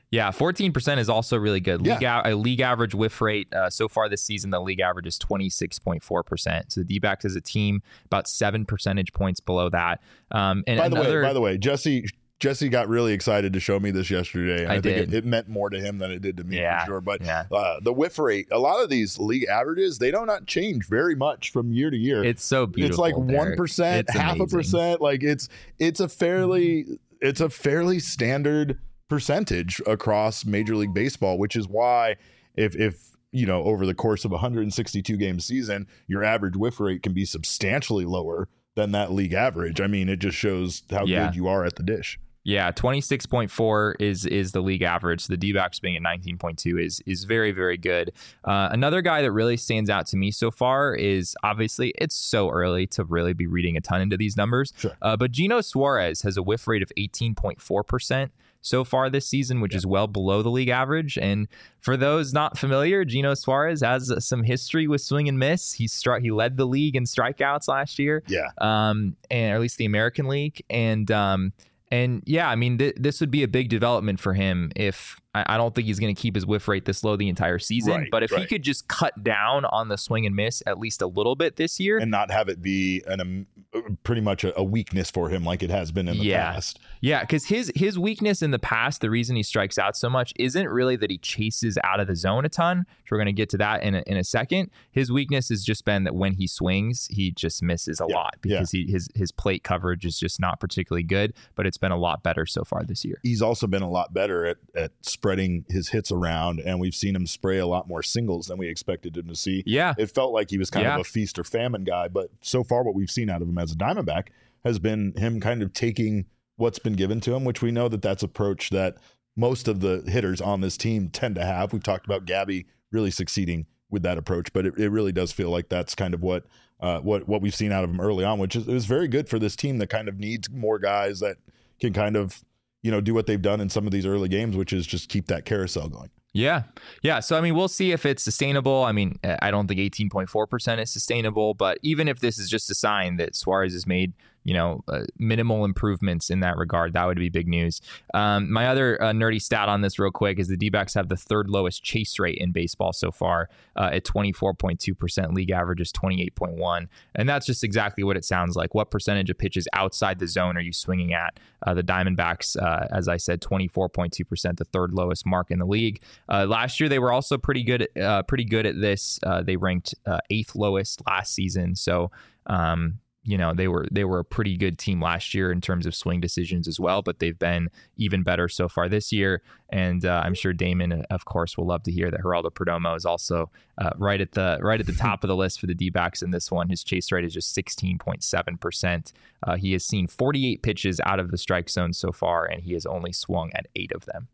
Yeah, fourteen percent is also really good. League Yeah. a, a league average whiff rate uh, so far this season, the league average is twenty-six point four percent. So the D-backs as a team, about seven percentage points below that. Um, and By the another, way, by the way, Jesse Jesse got really excited to show me this yesterday. And I, I think did. it, it meant more to him than it did to me Yeah, for sure. But yeah. uh, the whiff rate, a lot of these league averages, they do not change very much from year to year. it's so beautiful. It's like Derek. one percent, It's half a amazing. percent. Like it's it's a fairly it's a fairly standard percentage across Major League Baseball, which is why if if you know over the course of a one hundred sixty-two game season, your average whiff rate can be substantially lower than that league average. I mean, it just shows how Yeah. good you are at the dish. Yeah, twenty-six point four is is the league average. So the D-backs being at nineteen point two is is very, very good. Uh, another guy that really stands out to me so far is obviously it's so early to really be reading a ton into these numbers. Sure. Uh, but Gino Suarez has a whiff rate of eighteen point four percent so far this season, which is well below the league average. And for those not familiar, Gino Suarez has some history with swing and miss. He struck, he led the league in strikeouts last year. Yeah. Um, and or at least the American League. And um, And yeah, I mean, th- this would be a big development for him if I, I don't think he's going to keep his whiff rate this low the entire season. Right, but if he right. could just cut down on the swing and miss at least a little bit this year. And not have it be an um, pretty much a, a weakness for him like it has been in the Yeah. past. Yeah, because his his weakness in the past, the reason he strikes out so much isn't really that he chases out of the zone a ton. Which we're going to get to that in a, in a second. His weakness has just been that when he swings, he just misses a Yeah, lot because he, his his plate coverage is just not particularly good. But it's been a lot better so far this year. He's also been a lot better at, at spreading his hits around, and we've seen him spray a lot more singles than we expected him to see. Yeah. It felt like he was kind Yeah. of a feast or famine guy, but so far what we've seen out of him as a Diamondback has been him kind of taking what's been given to him, which we know that that's approach that most of the hitters on this team tend to have. We've talked about Gabby really succeeding with that approach, but it, it really does feel like that's kind of what uh, what what we've seen out of him early on, which is it was very good for this team that kind of needs more guys that can kind of, you know, do what they've done in some of these early games, which is just keep that carousel going. Yeah. Yeah. So, I mean, we'll see if it's sustainable. I mean, I don't think eighteen point four percent is sustainable, but even if this is just a sign that Suarez has made, you know, uh, minimal improvements in that regard, that would be big news. Um, my other uh, nerdy stat on this real quick is the D-backs have the third lowest chase rate in baseball so far uh, at twenty-four point two percent. League average is twenty-eight point one. And that's just exactly what it sounds like. What percentage of pitches outside the zone are you swinging at? Uh, the Diamondbacks, uh, as I said, twenty-four point two percent, the third lowest mark in the league. Uh, last year, they were also pretty good, uh, pretty good at this. Uh, they ranked uh, eighth lowest last season. So, um, you know, they were they were a pretty good team last year in terms of swing decisions as well, but they've been even better so far this year. And uh, I'm sure Damon, of course, will love to hear that Geraldo Perdomo is also uh, right at the right at the top of the list for the D-backs in this one. His chase rate is just sixteen point seven percent. Uh, he has seen forty-eight pitches out of the strike zone so far, and he has only swung at eight of them.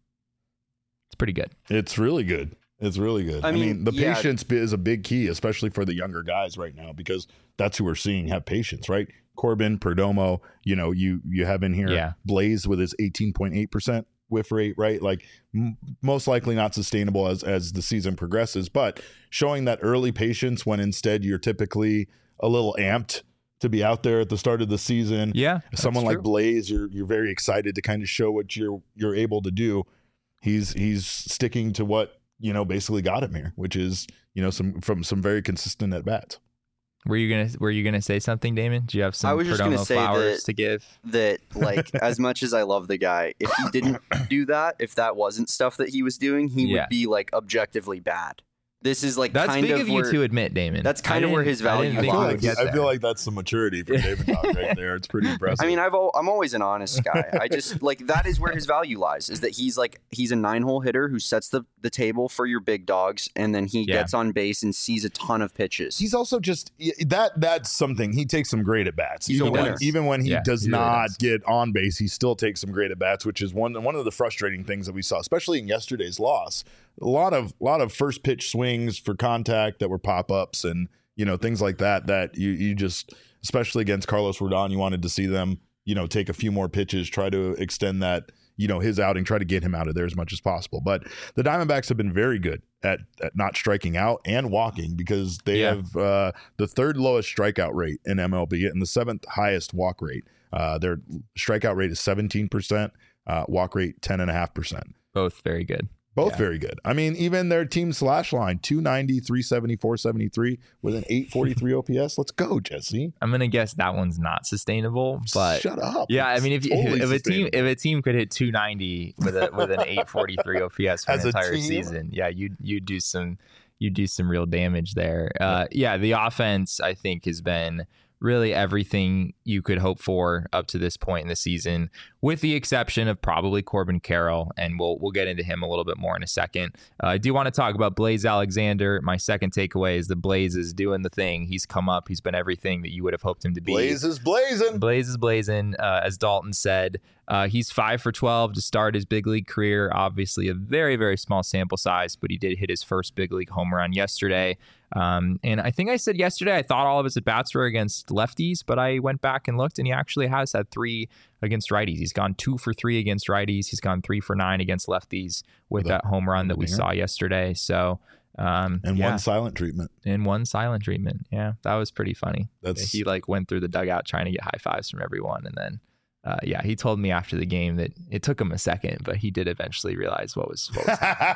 It's pretty good. It's really good. It's really good. I I mean, mean, the yeah. patience bi- is a big key, especially for the younger guys right now, because that's who we're seeing have patience, right? Corbin, Perdomo, you know, you you have in here Yeah. Blaze with his eighteen point eight percent whiff rate, right? Like m- most likely not sustainable as as the season progresses, but showing that early patience when instead you're typically a little amped to be out there at the start of the season. Yeah, Someone that's like true. Blaze, you're you're very excited to kind of show what you're you're able to do. He's he's sticking to what, you know, basically got him here, which is, you know, some from some very consistent at bats. Were you gonna Were you gonna say something, Damon? Do you have some I was just gonna Perdomo say flowers that- to give? that like as much as I love the guy, if he didn't do that, if that wasn't stuff that he was doing, he Yeah. would be like objectively bad. This is like That's kind big of of you where, to admit, Damon. That's kind I of where didn't- his I value didn't I think feel, you like, would get I there. feel like that's some maturity from David Dog right there. It's pretty impressive. I mean, I've al- I'm always an honest guy. I just like that is where his value lies. Is that he's like he's a nine hole hitter who sets the the table for your big dogs, and then he Yeah. gets on base and sees a ton of pitches. he's also just that that's something. He takes some great at bats. He's a Even when, winner. even when he Yeah, does he really not does. get on base, he still takes some great at bats, which is one one of the frustrating things that we saw, especially in yesterday's loss. A lot of lot of first pitch swings for contact that were pop ups and, you know, things like that. That you you just, especially against Carlos Rodon, you wanted to see them, you know, take a few more pitches, try to extend that, you know, his outing, try to get him out of there as much as possible. But the Diamondbacks have been very good at, at not striking out and walking, because they Yeah. have uh, the third lowest strikeout rate in M L B and the seventh highest walk rate. Uh, their strikeout rate is seventeen percent, uh, walk rate ten point five percent. Both very good. Both Yeah. very good. I mean, even their team slash line, two ninety, three seventy, four seventy-three with an eight forty-three O P S. Let's go, Jesse. I'm gonna guess that one's not sustainable, but Shut up. yeah, I It's mean, if, totally if, if a team sustainable. if a team could hit two ninety with a with an eight forty-three O P S for As an a entire team? season, yeah, you you do some you do some real damage there. Uh, yeah, the offense I think has been really everything you could hope for up to this point in the season, with the exception of probably Corbin Carroll, and we'll we'll get into him a little bit more in a second. Uh, I do want to talk about Blaze Alexander. My second takeaway is the Blaze is doing the thing. He's come up. He's been everything that you would have hoped him to be. Blaze is blazing. Blaze is blazing, uh, as Dalton said. Uh, he's five for twelve to start his big league career. Obviously, a very, very small sample size, but he did hit his first big league home run yesterday. Um, and I think I said yesterday I thought all of his at bats were against lefties, but I went back and looked, and he actually has had three against righties. He's gone two for three against righties. He's gone three for nine against lefties with With a- that home run that we winger. saw yesterday. So, um, And yeah. one silent treatment. and one silent treatment. Yeah, that was pretty funny. That's He like went through the dugout trying to get high fives from everyone, and then uh, yeah, he told me after the game that it took him a second, but he did eventually realize what was what was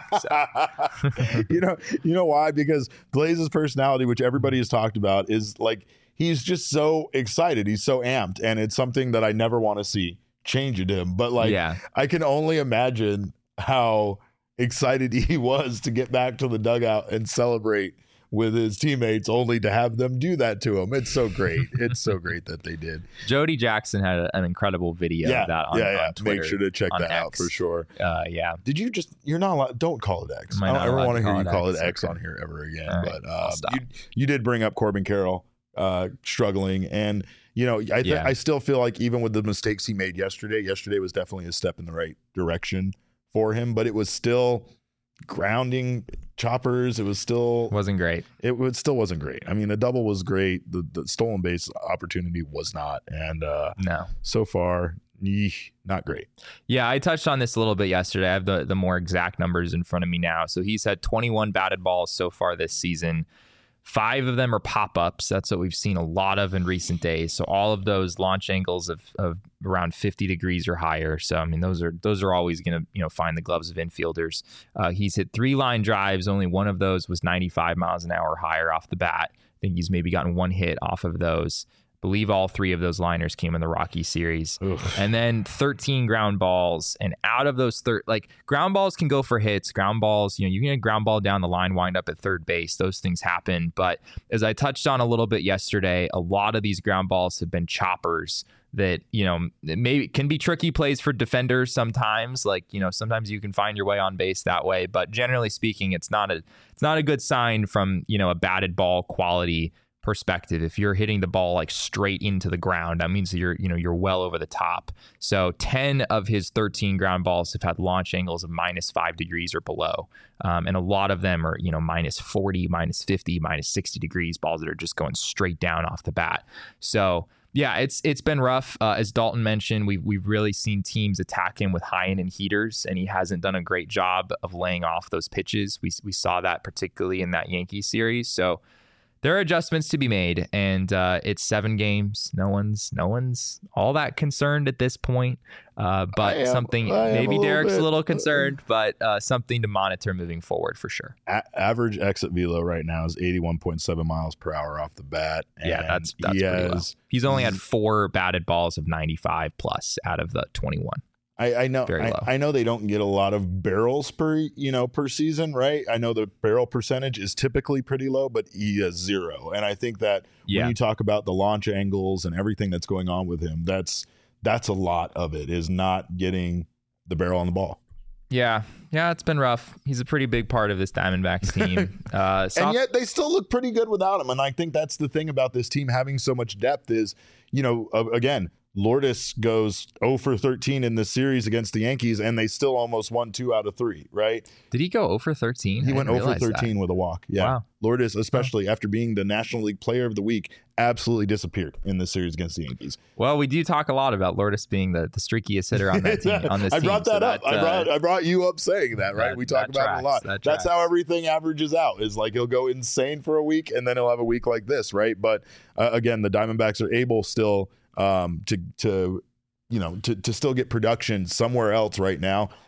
happening. you know, you know why? Because Blaze's personality, which everybody has talked about, is like he's just so excited. He's so amped, and it's something that I never want to see change in him. But like, Yeah. I can only imagine how excited he was to get back to the dugout and celebrate with his teammates, only to have them do that to him. It's so great. It's so great that they did. Jody Jackson had a, an incredible video Yeah, of that on, yeah, yeah. on Twitter. Make sure to check on that out X. for sure. Uh, yeah. Did you just? You're not allowed. Don't call it X. Am I I don't not ever allowed want to to hear call you it call X? it X Okay. on here ever again. All right, But I'll uh, stop. you you did bring up Corbin Carroll uh, struggling, and you know I th- Yeah. I still feel like even with the mistakes he made yesterday, yesterday was definitely a step in the right direction for him, but it was still grounding choppers. It was still Wasn't great. it was still wasn't great. I mean, the double was great. The the stolen base opportunity was not, and uh, No. so far, yeesh, not great. Yeah, I touched on this a little bit yesterday. I have the, the more exact numbers in front of me now. So he's had twenty-one batted balls so far this season. Five of them are pop-ups. That's what we've seen a lot of in recent days. So all of those launch angles of, of around fifty degrees or higher. So I mean, those are those are always going to you know find the gloves of infielders. Uh, he's hit three line drives. Only one of those was ninety-five miles an hour or higher off the bat. I think he's maybe gotten one hit off of those. I believe all three of those liners came in the Rocky series. Ugh. And then thirteen ground balls. And out of those, thir- like ground balls can go for hits. Ground balls, you know, you can get a ground ball down the line, wind up at third base. Those things happen. But as I touched on a little bit yesterday, a lot of these ground balls have been choppers that, you know, maybe can be tricky plays for defenders sometimes. Like, you know, sometimes you can find your way on base that way. But generally speaking, it's not a it's not a good sign from, you know, a batted ball quality perspective. If you're hitting the ball like straight into the ground, that means that you're, you know, you're well over the top. So ten of his thirteen ground balls have had launch angles of minus five degrees or below. Um, and a lot of them are, you know, minus forty, minus fifty, minus sixty degrees, balls that are just going straight down off the bat. So yeah, it's it's been rough. Uh, as Dalton mentioned, we've, we've really seen teams attack him with high end and heaters, and he hasn't done a great job of laying off those pitches. We, we saw that particularly in that Yankees series. So there are adjustments to be made, and uh, it's seven games. No one's, no one's all that concerned at this point. Uh, but I am- something I am a maybe little Derek's bit. a little concerned, but uh, something to monitor moving forward for sure. A- average exit velo right now is eighty-one point seven miles per hour off the bat. Yeah, and that's that's he pretty low. has- He's only had four batted balls of ninety-five plus out of the twenty-one. I, I know. Very I, low. I know they don't get a lot of barrels per you know per season, right? I know the barrel percentage is typically pretty low, but he has zero. And I think that Yeah. when you talk about the launch angles and everything that's going on with him, that's that's a lot of it is not getting the barrel on the ball. Yeah, yeah, it's been rough. He's a pretty big part of this Diamondbacks team. Uh, soft- And yet they still look pretty good without him. And I think that's the thing about this team having so much depth is, you know, uh, again, Lourdes goes oh for thirteen in this series against the Yankees, and they still almost won two out of three, right? did he go oh for thirteen? He I went didn't oh for realize that. thirteen with a walk. Yeah. Wow. Lourdes, especially after being the National League Player of the Week, absolutely disappeared in this series against the Yankees. Well, we do talk a lot about Lourdes being the, the streakiest hitter on that team. On this I team, brought so that up. I uh, brought I brought you up saying that, right? that- we talk that about it a lot. tracks. That That's how tracks. everything averages out. Is like he'll go insane for a week, and then he'll have a week like this, right? But uh, again, the Diamondbacks are able still um, to to you know to to still get production somewhere else right now,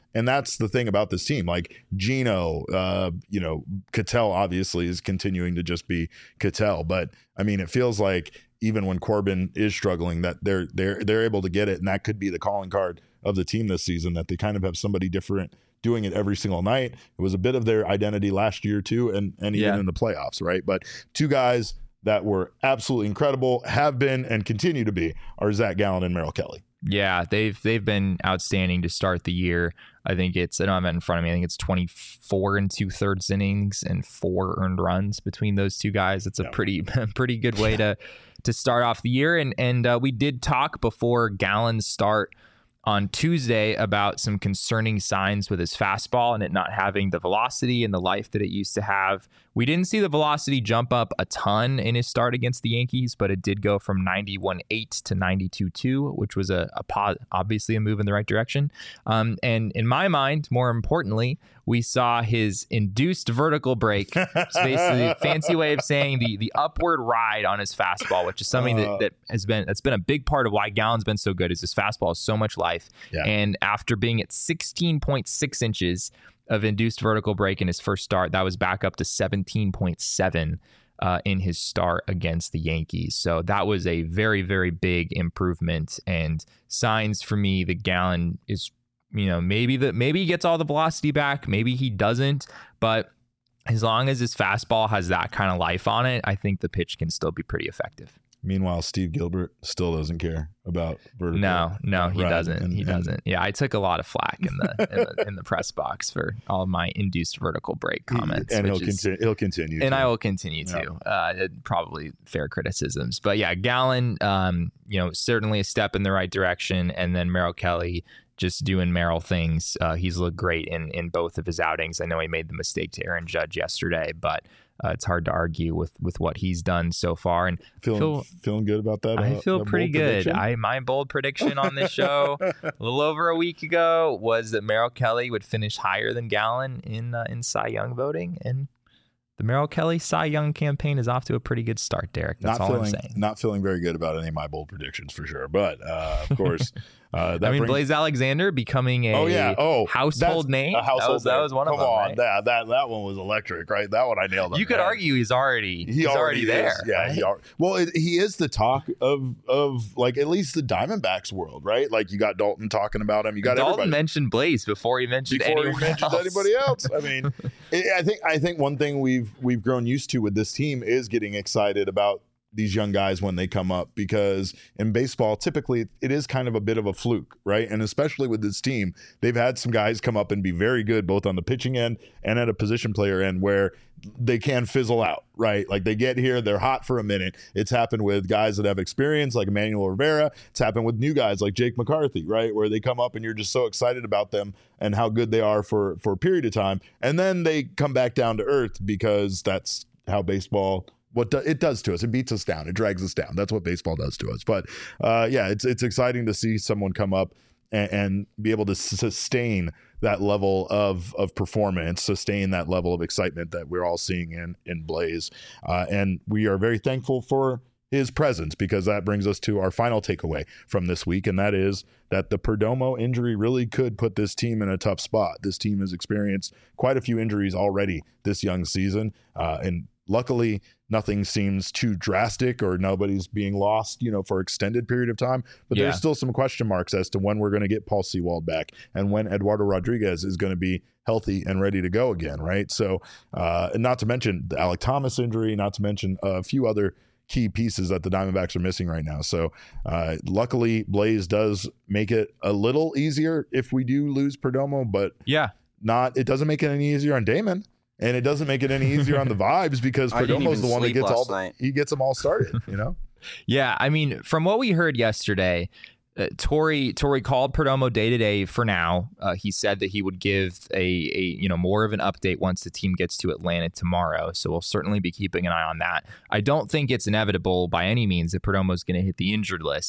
And that's the thing about this team. Like Gino, uh, you know, Cattell obviously is continuing to just be Cattell. But I mean, it feels like even when Corbin is struggling, that they're they're they're able to get it, and that could be the calling card of the team this season. That they kind of have somebody different doing it every single night. It was a bit of their identity last year too, and and even Yeah. in the playoffs, right? But two guys that were absolutely incredible, have been and continue to be, are Zach Gallen and Merrill Kelly. Yeah, they've they've been outstanding to start the year. I think it's I don't have it in front of me. I think it's twenty-four and two thirds innings and four earned runs between those two guys. It's a Yeah. pretty pretty good way to to start off the year. And and uh, we did talk before Gallen's start on Tuesday about some concerning signs with his fastball and it not having the velocity and the life that it used to have. We didn't see the velocity jump up a ton in his start against the Yankees, but it did go from ninety-one point eight to ninety-two point two, which was a, a pos- obviously a move in the right direction. Um, and in my mind, more importantly, we saw his induced vertical break. It's basically a fancy way of saying the the upward ride on his fastball, which is something Uh, that, that has been that's been a big part of why Gallen's been so good. Is his fastball has so much life, Yeah. and after being at sixteen point six inches of induced vertical break in his first start, that was back up to seventeen point seven uh, in his start against the Yankees. So that was a very, very big improvement, and signs for me that Gallen is, you know, maybe that maybe he gets all the velocity back, maybe he doesn't, but as long as his fastball has that kind of life on it, I think the pitch can still be pretty effective. Meanwhile, Steve Gilbert still doesn't care about vertical. No, no, he ride doesn't. and- he and- doesn't. Yeah, I took a lot of flack in the in the, in the press box for all of my induced vertical break comments, and he'll which is, continue. He'll continue. and to. I will continue to. Uh, it- probably fair criticisms, but yeah, Gallen, um, you know, certainly a step in the right direction, and then Merrill Kelly just doing Merrill things. Uh, he's looked great in in both of his outings. I know he made the mistake to Aaron Judge yesterday, but uh, it's hard to argue with with what he's done so far. And feeling feel- feeling good about that. I uh, feel that pretty bold good. prediction? I my bold prediction on this show a little over a week ago was that Merrill Kelly would finish higher than Gallen in uh, in Cy Young voting, and the Merrill Kelly Cy Young campaign is off to a pretty good start, Derek. That's not all feeling I'm saying. not feeling very good about any of my bold predictions for sure. But uh, of course, uh, that I mean, brings, Blaze Alexander becoming a oh yeah, oh household that's name. A household that was that name. was one Come of them. on, Right? that that that one was electric, right? That one I nailed. on You the could head. argue he's already He he's already, already there. is. Yeah, right? he are, well, it, he is the talk of of like at least the Diamondbacks world, right? Like you got Dalton talking about him. You got Dalton everybody. mentioned Blaze before he mentioned before anyone he mentioned else. anybody else. I mean, I I think I think one thing we've we've grown used to with this team is getting excited about these young guys when they come up, because in baseball typically it is kind of a bit of a fluke, right? And especially with this team, they've had some guys come up and be very good both on the pitching end and at a position player end where they can fizzle out, right? Like they get here, they're hot for a minute. It's happened with guys that have experience like Emmanuel Rivera. It's happened with new guys like Jake McCarthy, right? Where they come up and you're just so excited about them and how good they are for for a period of time, and then they come back down to earth because that's how baseball what do, it does to us. It beats us down. It drags us down. That's what baseball does to us. But uh, yeah, it's it's exciting to see someone come up and, and be able to sustain that level of of performance, sustain that level of excitement that we're all seeing in in Blaze. Uh, and we are very thankful for his presence, because that brings us to our final takeaway from this week, and that is that the Perdomo injury really could put this team in a tough spot. This team has experienced quite a few injuries already this young season, uh, and luckily nothing seems too drastic or nobody's being lost, you know, for extended period of time. But Yeah. there's still some question marks as to when we're going to get Paul Sewald back and when Eduardo Rodriguez is going to be healthy and ready to go again, right? So, uh, and not to mention the Alec Thomas injury, not to mention a few other key pieces that the Diamondbacks are missing right now. So uh, luckily Blaze does make it a little easier if we do lose Perdomo, but Yeah. not, it doesn't make it any easier on Damon. And it doesn't make it any easier on the Vibes, because I didn't Perdomo's even the one that sleep gets all last the, night. he gets them all started, you know? Yeah, I mean, from what we heard yesterday, uh, Torrey Torrey called Perdomo day to day for now. Uh, he said that he would give a, a you know more of an update once the team gets to Atlanta tomorrow. So we'll certainly be keeping an eye on that. I don't think it's inevitable by any means that Perdomo is going to hit the injured list,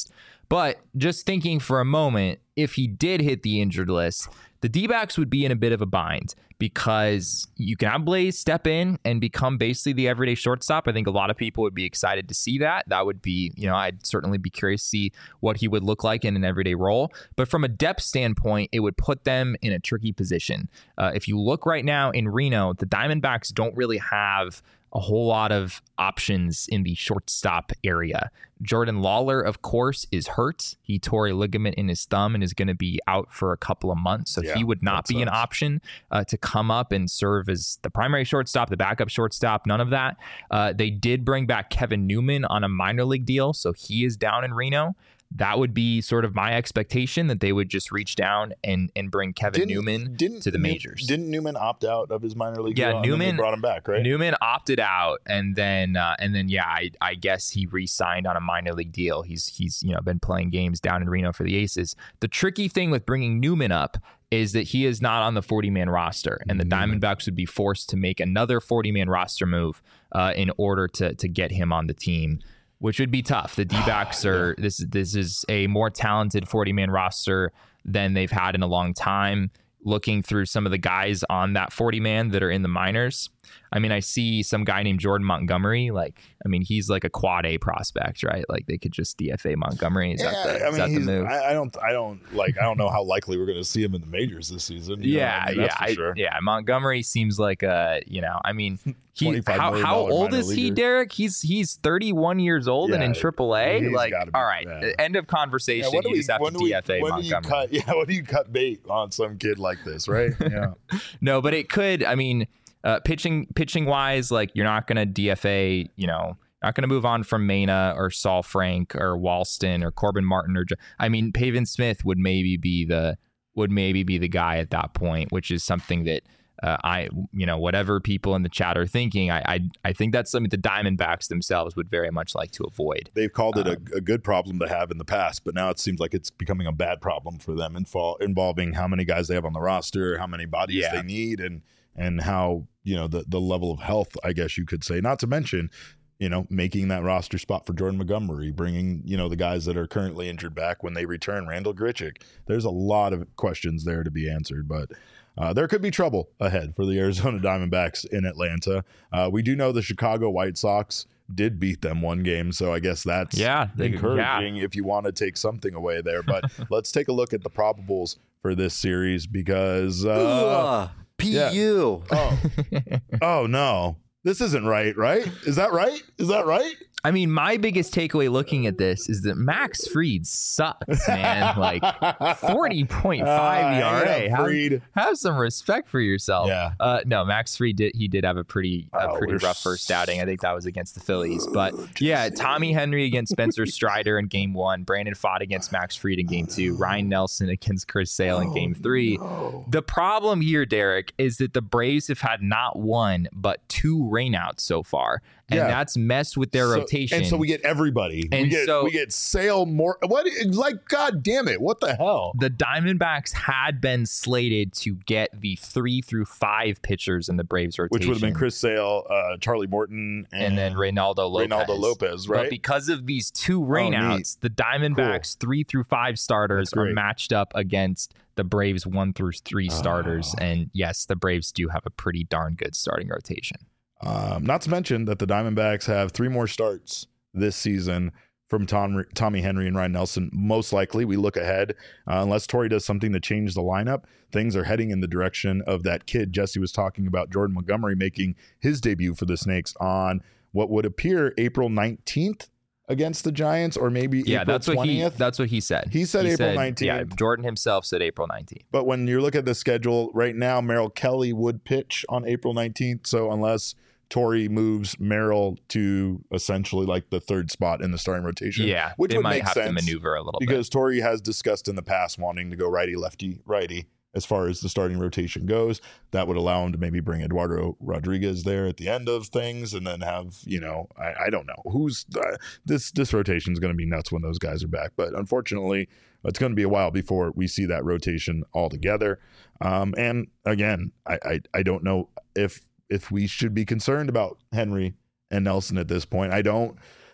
But just thinking for a moment, if he did hit the injured list, the D-backs would be in a bit of a bind because you can have Blaze step in and become basically the everyday shortstop. I think a lot of people would be excited to see that. That would be, you know, I'd certainly be curious to see what he would look like in an everyday role. But from a depth standpoint, it would put them in a tricky position. Uh, if you look right now in Reno, the Diamondbacks don't really have a whole lot of options in the shortstop area. Jordan Lawler, of course, is hurt. He tore a ligament in his thumb and is going to be out for a couple of months. So yeah, he would not be sense. an option uh, to come up and serve as the primary shortstop, the backup shortstop, none of that. Uh, they did bring back Kevin Newman on a minor league deal, so he is down in Reno. That would be sort of my expectation, that they would just reach down and, and bring Kevin didn't, Newman didn't, to the majors. Didn't Newman opt out of his minor league yeah, deal? Newman And then they brought him back, right? Newman opted out, and then uh, and then yeah, I, I guess he re-signed on a minor league deal. He's he's you know been playing games down in Reno for the Aces. The tricky thing with bringing Newman up is that he is not on the forty-man roster, and the Diamondbacks would be forced to make another forty-man roster move uh, in order to to get him on the team, which would be tough. The D-backs are this this is a more talented forty-man roster than they've had in a long time. Looking through some of the guys on that forty-man that are in the minors, I mean, I see some guy named Jordan Montgomery. Like, I mean, he's like a quad A prospect, right? Like, they could just D F A Montgomery. Is yeah, that the, I is mean, that the move? I, I don't, I don't like, I don't know how likely we're going to see him in the majors this season. You yeah, know? I mean, yeah, that's for I, sure. yeah. Montgomery seems like a, you know, I mean, he, how, how old is he, leaguer. Derek? He's he's thirty-one years old yeah, and in triple A. Like, be, all right, yeah. End of conversation. Yeah, you we, just have to D F A we, when Montgomery. Do you cut, yeah, when do you cut bait on some kid like this, right? Yeah. No, but it could. I mean, uh, pitching pitching wise, like you're not going to D F A. You know, not going to move on from Mena or Saul Frank or Walston or Corbin Martin or. I mean, Pavin Smith would maybe be the would maybe be the guy at that point, which is something that. Uh, I, you know, whatever people in the chat are thinking, I, I, I think that's something the Diamondbacks themselves would very much like to avoid. They've called it um, a, a good problem to have in the past, but now it seems like it's becoming a bad problem for them, info, involving how many guys they have on the roster, how many bodies yeah. they need, and and how you know the the level of health, I guess you could say. Not to mention, you know, making that roster spot for Jordan Montgomery, bringing you know the guys that are currently injured back when they return, Randall Grichuk. There's a lot of questions there to be answered, but. Uh, there could be trouble ahead for the Arizona Diamondbacks in Atlanta. Uh, we do know the Chicago White Sox did beat them one game, so I guess that's yeah, they, encouraging yeah. if you want to take something away there. But let's take a look at the probables for this series because uh, Ugh, P U. Yeah. Oh. oh no, this isn't right. Right? Is that right? Is that right? I mean, my biggest takeaway looking at this is that Max Fried sucks, man. Like forty point five E R A. Uh, have, have some respect for yourself. Yeah. Uh, no, Max Fried did. He did have a pretty, a oh, pretty rough first outing. I think that was against the Phillies. But yeah, Tommy Henry against Spencer Strider in game one. Brandon Pfaadt against Max Fried in game two. Ryan Nelson against Chris Sale in game three. Oh, no. The problem here, Derek, is that the Braves have had not one but two rainouts so far. And yeah. that's messed with their so, rotation. And so we get everybody. And we get so, we get Sale more. What? Like, God damn it! What the hell? The Diamondbacks had been slated to get the three through five pitchers in the Braves rotation, which would have been Chris Sale, uh, Charlie Morton, and, and then Reynaldo Lopez. Reynaldo Lopez, right? But because of these two rainouts, oh, the Diamondbacks cool. three through five starters are matched up against the Braves one through three starters. Oh. And yes, the Braves do have a pretty darn good starting rotation. Um, not to mention that the Diamondbacks have three more starts this season from Tom, Tommy Henry and Ryan Nelson. Most likely, we look ahead, uh, unless Torey does something to change the lineup, things are heading in the direction of that kid Jesse was talking about, Jordan Montgomery, making his debut for the Snakes on what would appear April nineteenth against the Giants, or maybe yeah, April that's what twentieth. he that's what he said. He said he April said, nineteenth. Yeah, Jordan himself said April nineteenth. But when you look at the schedule right now, Merrill Kelly would pitch on April nineteenth. So unless Torey moves Merrill to essentially like the third spot in the starting rotation. Yeah, which they would might make have sense to maneuver a little because bit. Because Torey has discussed in the past wanting to go righty, lefty, righty as far as the starting rotation goes. That would allow him to maybe bring Eduardo Rodriguez there at the end of things and then have, you know, I, I don't know. who's uh, This this rotation is going to be nuts when those guys are back. But unfortunately, it's going to be a while before we see that rotation all together. Um, and again, I, I, I don't know if if we should be concerned about Henry and Nelson at this point. I don't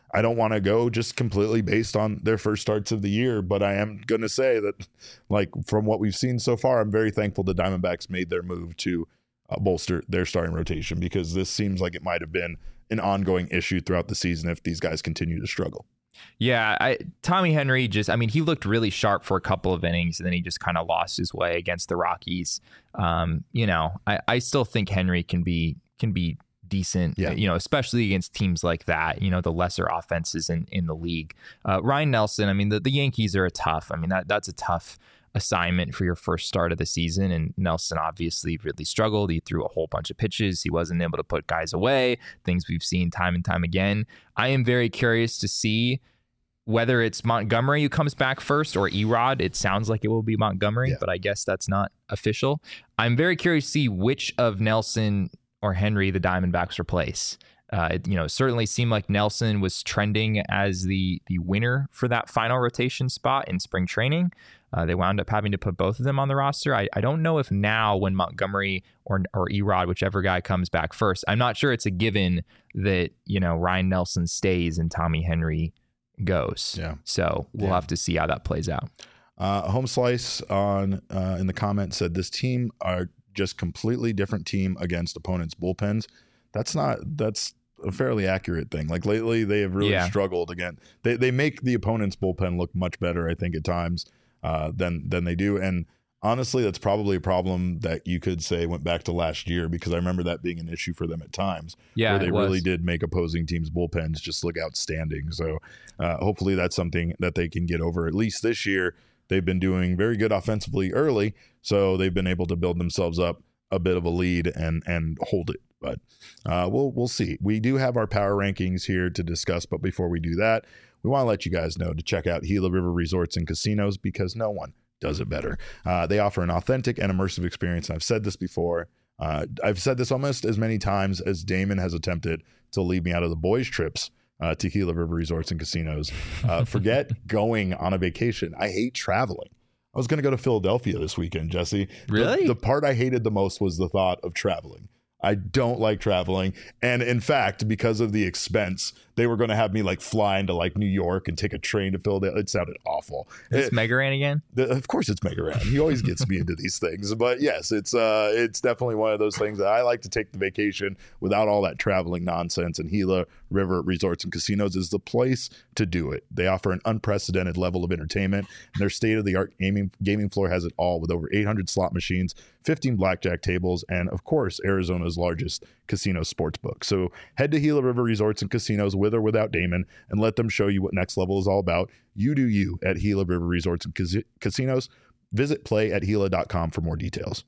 I don't want to go just completely based on their first starts of the year, but I am going to say that, like, from what we've seen so far, I'm very thankful the Diamondbacks made their move to uh, bolster their starting rotation, because this seems like it might have been an ongoing issue throughout the season if these guys continue to struggle. Yeah, I, Tommy Henry just, I mean, he looked really sharp for a couple of innings, and then he just kind of lost his way against the Rockies. Um, you know, I, I still think Henry can be can be decent, yeah. you know, especially against teams like that, you know, the lesser offenses in, in the league. Uh, Ryan Nelson, I mean, the, the Yankees are a tough, I mean, that that's a tough assignment for your first start of the season. And Nelson obviously really struggled. He threw a whole bunch of pitches. He wasn't able to put guys away, things we've seen time and time again. I am very curious to see whether it's Montgomery who comes back first or Erod. It sounds like it will be Montgomery, yeah. but I guess that's not official. I'm very curious to see which of Nelson or Henry the Diamondbacks replace. Uh, it, you know, it certainly seemed like Nelson was trending as the the winner for that final rotation spot in spring training. Uh, they wound up having to put both of them on the roster. I, I don't know if now, when Montgomery or or Erod, whichever guy comes back first, I'm not sure it's a given that, you know, Ryan Nelson stays and Tommy Henry goes. Yeah. So we'll yeah. have to see how that plays out. Uh, Home Slice on uh, in the comments said this team are just completely different team against opponents' bullpens. That's not, that's a fairly accurate thing. Like lately they have really yeah. struggled again. They they make the opponent's bullpen look much better, I think, at times uh, than, than they do. And honestly, that's probably a problem that you could say went back to last year, because I remember that being an issue for them at times. Yeah, where they it was. really did make opposing teams' bullpens just look outstanding. So uh, hopefully that's something that they can get over. At least this year, they've been doing very good offensively early, so they've been able to build themselves up a bit of a lead and and hold it. But uh, we'll we'll see. We do have our power rankings here to discuss, but before we do that, we want to let you guys know to check out Gila River Resorts and Casinos, because no one does it better. Uh, they offer an authentic and immersive experience. And I've said this before. Uh, I've said this almost as many times as Damon has attempted to leave me out of the boys' trips uh, to Gila River Resorts and Casinos. Uh, forget going on a vacation. I hate traveling. I was going to go to Philadelphia this weekend, Jesse. Really? The, the part I hated the most was the thought of traveling. I don't like traveling. And in fact, because of the expense, they were going to have me like fly into like New York and take a train to Philadelphia. It sounded awful. Is this Megaran again? The, of course it's Megaran. He always gets me into these things. But yes, it's uh, it's definitely one of those things that I like to take the vacation without all that traveling nonsense. And Gila River Resorts and Casinos is the place to do it. They offer an unprecedented level of entertainment, and their state-of-the-art gaming gaming floor has it all, with over eight hundred slot machines, fifteen blackjack tables, and of course Arizona's largest casino sports book. So head to Gila River Resorts and Casinos with or without Damon and let them show you what next level is all about. You do you at Gila River Resorts and Cas- Casinos. Visit play at gila dot com for more details.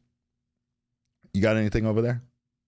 You got anything over there?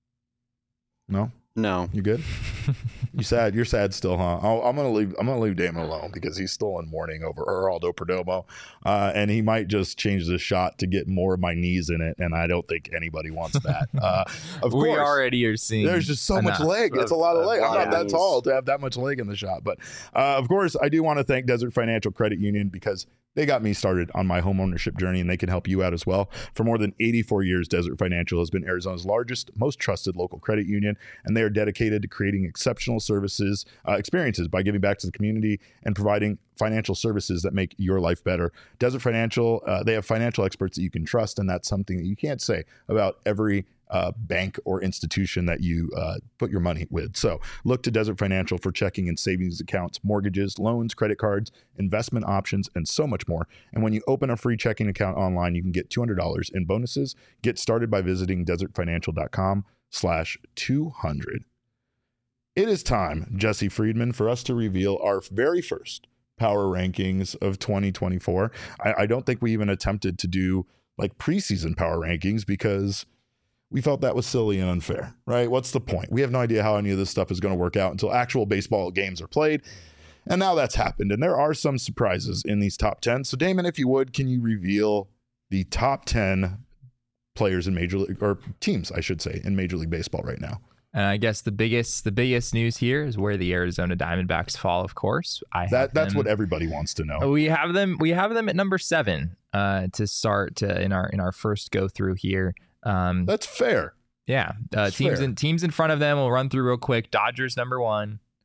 No? No. You good? You sad? You're sad still, huh? I'll, I'm gonna leave. I'm gonna leave Damon alone because he's still in mourning over Geraldo Perdomo, uh, and he might just change the shot to get more of my knees in it, and I don't think anybody wants that. Uh, of we course, already are seeing. There's just so much leg. It's a lot of leg. I'm not that tall to have that much leg in the shot, but uh, of course, I do want to thank Desert Financial Credit Union, because they got me started on my home ownership journey, and they can help you out as well. For more than eighty-four years, Desert Financial has been Arizona's largest, most trusted local credit union, and they are dedicated to creating exceptional services, uh, experiences by giving back to the community and providing financial services that make your life better. Desert Financial, uh, they have financial experts that you can trust, and that's something that you can't say about every Uh, bank or institution that you uh, put your money with. So look to Desert Financial for checking and savings accounts, mortgages, loans, credit cards, investment options, and so much more. And when you open a free checking account online, you can get two hundred dollars in bonuses. Get started by visiting desert financial dot com slash two hundred. It is time, Jesse Friedman, for us to reveal our very first power rankings of twenty twenty-four. I, I don't think we even attempted to do like preseason power rankings because we felt that was silly and unfair, right? What's the point? We have no idea how any of this stuff is going to work out until actual baseball games are played. And now that's happened. And there are some surprises in these top ten. So Damon, if you would, can you reveal the top ten players in Major League, or teams, I should say, in Major League Baseball right now? And I guess the biggest the biggest news here is where the Arizona Diamondbacks fall, of course. I that That's them, what everybody wants to know. We have them we have them at number seven uh, to start to, in our in our first go through here. Um, That's fair. Yeah. Uh, That's teams fair. in teams in front of them, we'll run through real quick. Dodgers number one,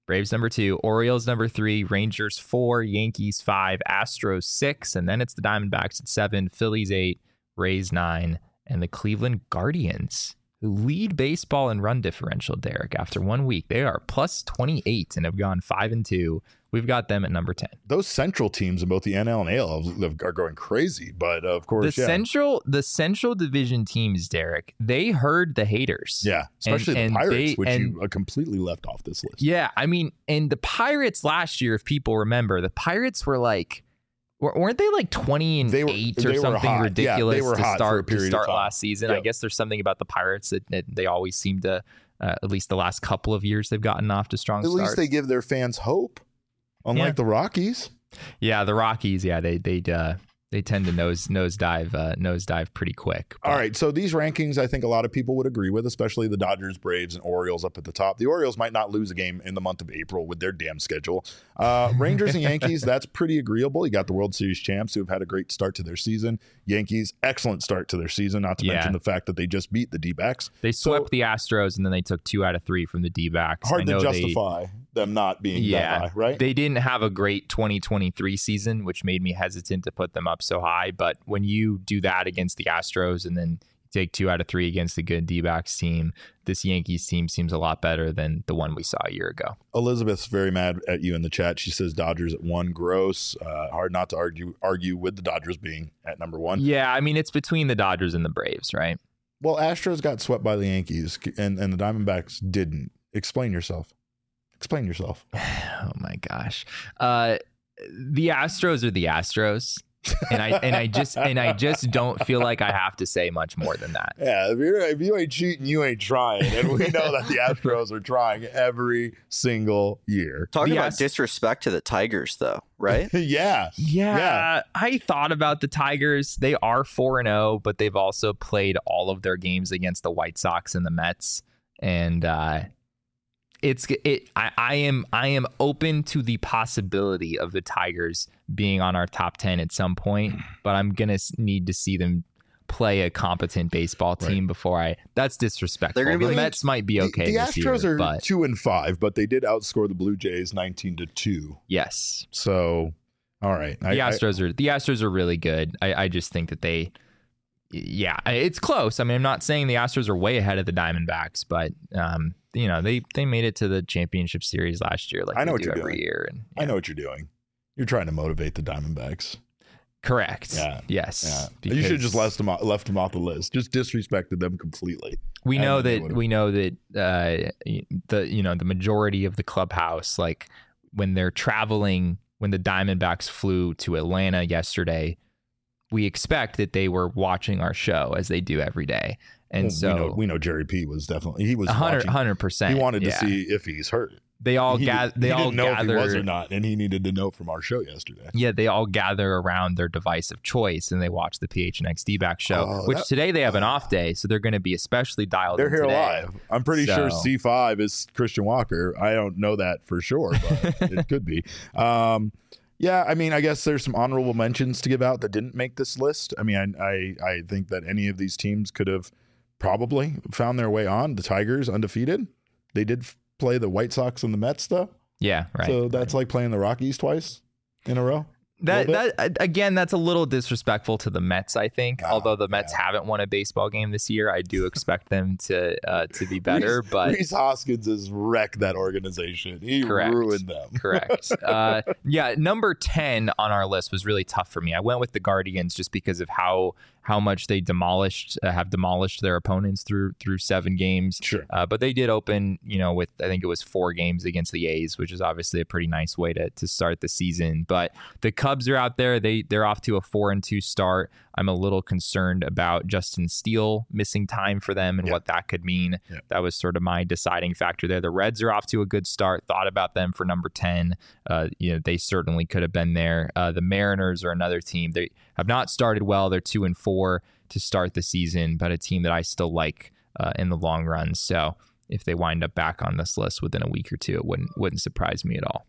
Braves number two, Orioles number three, Rangers four, Yankees five, Astros six, and then it's the Diamondbacks at seven, Phillies eight, Rays nine, and the Cleveland Guardians, who lead baseball in run differential, Derek. After one week, they are plus twenty-eight and have gone five and two. We've got them at number ten. Those central teams in both the N L and A L are going crazy, but of course, the yeah. central the central division teams, Derek, they heard the haters. Yeah, especially and, the and Pirates, they, which and, you uh, completely left off this list. Yeah, I mean, and the Pirates last year, if people remember, the Pirates were like, weren't they like twenty and They were- eight they or were something hot. Yeah, ridiculous they were to hot for a start to period of start time. last season? I Yep. guess there's something about the Pirates that, that they always seem to, uh, at least the last couple of years, they've gotten off to strong At starts. least they give their fans hope, unlike Yeah. the Rockies. Yeah, the Rockies. Yeah, they they uh, they tend to nose nosedive uh, nosedive pretty quick. All right, so these rankings, I think a lot of people would agree with, especially the Dodgers, Braves, and Orioles up at the top. The Orioles might not lose a game in the month of April with their damn schedule. Uh, Rangers and Yankees, that's pretty agreeable. You got the World Series champs who have had a great start to their season. Yankees, excellent start to their season, not to Yeah. mention the fact that they just beat the D-backs. They swept So- the Astros, and then they took two out of three from the D-backs. Hard I to know they- justify them not being Yeah, that high, right? They didn't have a great twenty twenty-three season, which made me hesitant to put them up so high. But when you do that against the Astros and then take two out of three against the good D-backs team, this Yankees team seems a lot better than the one we saw a year ago. Elizabeth's very mad at you in the chat. She says Dodgers at one, gross. Uh, hard not to argue argue with the Dodgers being at number one. Yeah, I mean, it's between the Dodgers and the Braves, right? Well, Astros got swept by the Yankees, and, and the Diamondbacks didn't. Explain yourself. Explain yourself. Oh my gosh. Uh, the Astros are the Astros. and I and I just and I just don't feel like I have to say much more than that. Yeah, if, you're, if you ain't cheating, you ain't trying. And we know that the Astros are trying every single year. Talking The about Ast- disrespect to the Tigers, though, right? yeah. Yeah, Yeah. I thought about the Tigers. They are four and zero, but they've also played all of their games against the White Sox and the Mets, and uh, it's it. I, I am I am open to the possibility of the Tigers being on our top ten at some point, but I'm gonna s- need to see them play a competent baseball team Right. before I. That's disrespectful. They're gonna be the like- Mets might be okay. The, the this Astros year, are but two and five, but they did outscore the Blue Jays nineteen to two. yes, So, all right. the Astros are the Astros are really good. I, I just think that they, yeah, it's close. I mean, I'm not saying the Astros are way ahead of the Diamondbacks, but um, you know, they they made it to the championship series last year, like I know they what do you're every doing. year. And I know what you're doing. You're trying to motivate the Diamondbacks. correct. Yeah. Yes. Yeah. You should have because just left them off, left them off the list. Just disrespected them completely. We and know then they that would've- we know that uh, the you know the majority of the clubhouse, like when they're traveling, when the Diamondbacks flew to Atlanta yesterday, we expect that they were watching our show as they do every day. And Well, so we know, we know Jerry P was definitely he was A hundred, watching. hundred percent. He wanted yeah. to see if he's hurt. They all he, gather. They he all didn't know gather. if he was or not, and he needed to know from our show yesterday. Yeah, they all gather around their device of choice and they watch the P H N X D-back show. Oh, which that- today they have an off day, so they're going to be especially dialed. They're in here today. live. I'm pretty sure So- C five is Christian Walker. I don't know that for sure, but it could be. Um, yeah, I mean, I guess there's some honorable mentions to give out that didn't make this list. I mean, I I, I think that any of these teams could have probably found their way on. The Tigers undefeated. They did f- play the White Sox and the Mets though. Yeah, right. So that's like playing the Rockies twice in a row. That little that again, that's a little disrespectful to the Mets. I think, Oh, although the Mets yeah. haven't won a baseball game this year, I do expect them to uh, to be better. Reese, but Reese Hoskins has wrecked that organization. He Correct. ruined them. correct. Uh, yeah, number ten on our list was really tough for me. I went with the Guardians just because of how how much they demolished uh, have demolished their opponents through through seven games. Sure. Uh, but they did open, you know, with I think it was four games against the A's, which is obviously a pretty nice way to to start the season. But the Cubs are out there; they they're off to a four and two start. I'm a little concerned about Justin Steele missing time for them and Yeah. what that could mean. Yeah. That was sort of my deciding factor there. The Reds are off to a good start. Thought about them for number ten. Uh, you know, they certainly could have been there. Uh, the Mariners are another team. They have not started well. They're two and four to start the season, but a team that I still like uh, in the long run. So if they wind up back on this list within a week or two, it wouldn't wouldn't surprise me at all.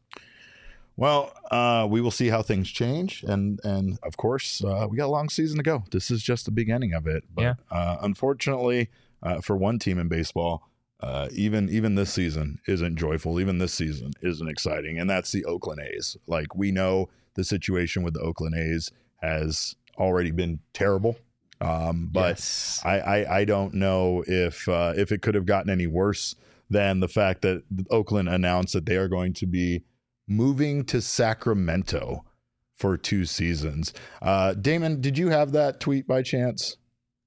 Well, uh, we will see how things change, and and of course, uh, we got a long season to go. This is just the beginning of it. But Yeah. uh, unfortunately, uh, for one team in baseball, uh, even even this season isn't joyful. Even this season isn't exciting, and that's the Oakland A's. Like, we know the situation with the Oakland A's has already been terrible, um, but Yes. I, I I don't know if uh, if it could have gotten any worse than the fact that Oakland announced that they are going to be moving to Sacramento for two seasons. Uh, Damon, did you have that tweet by chance?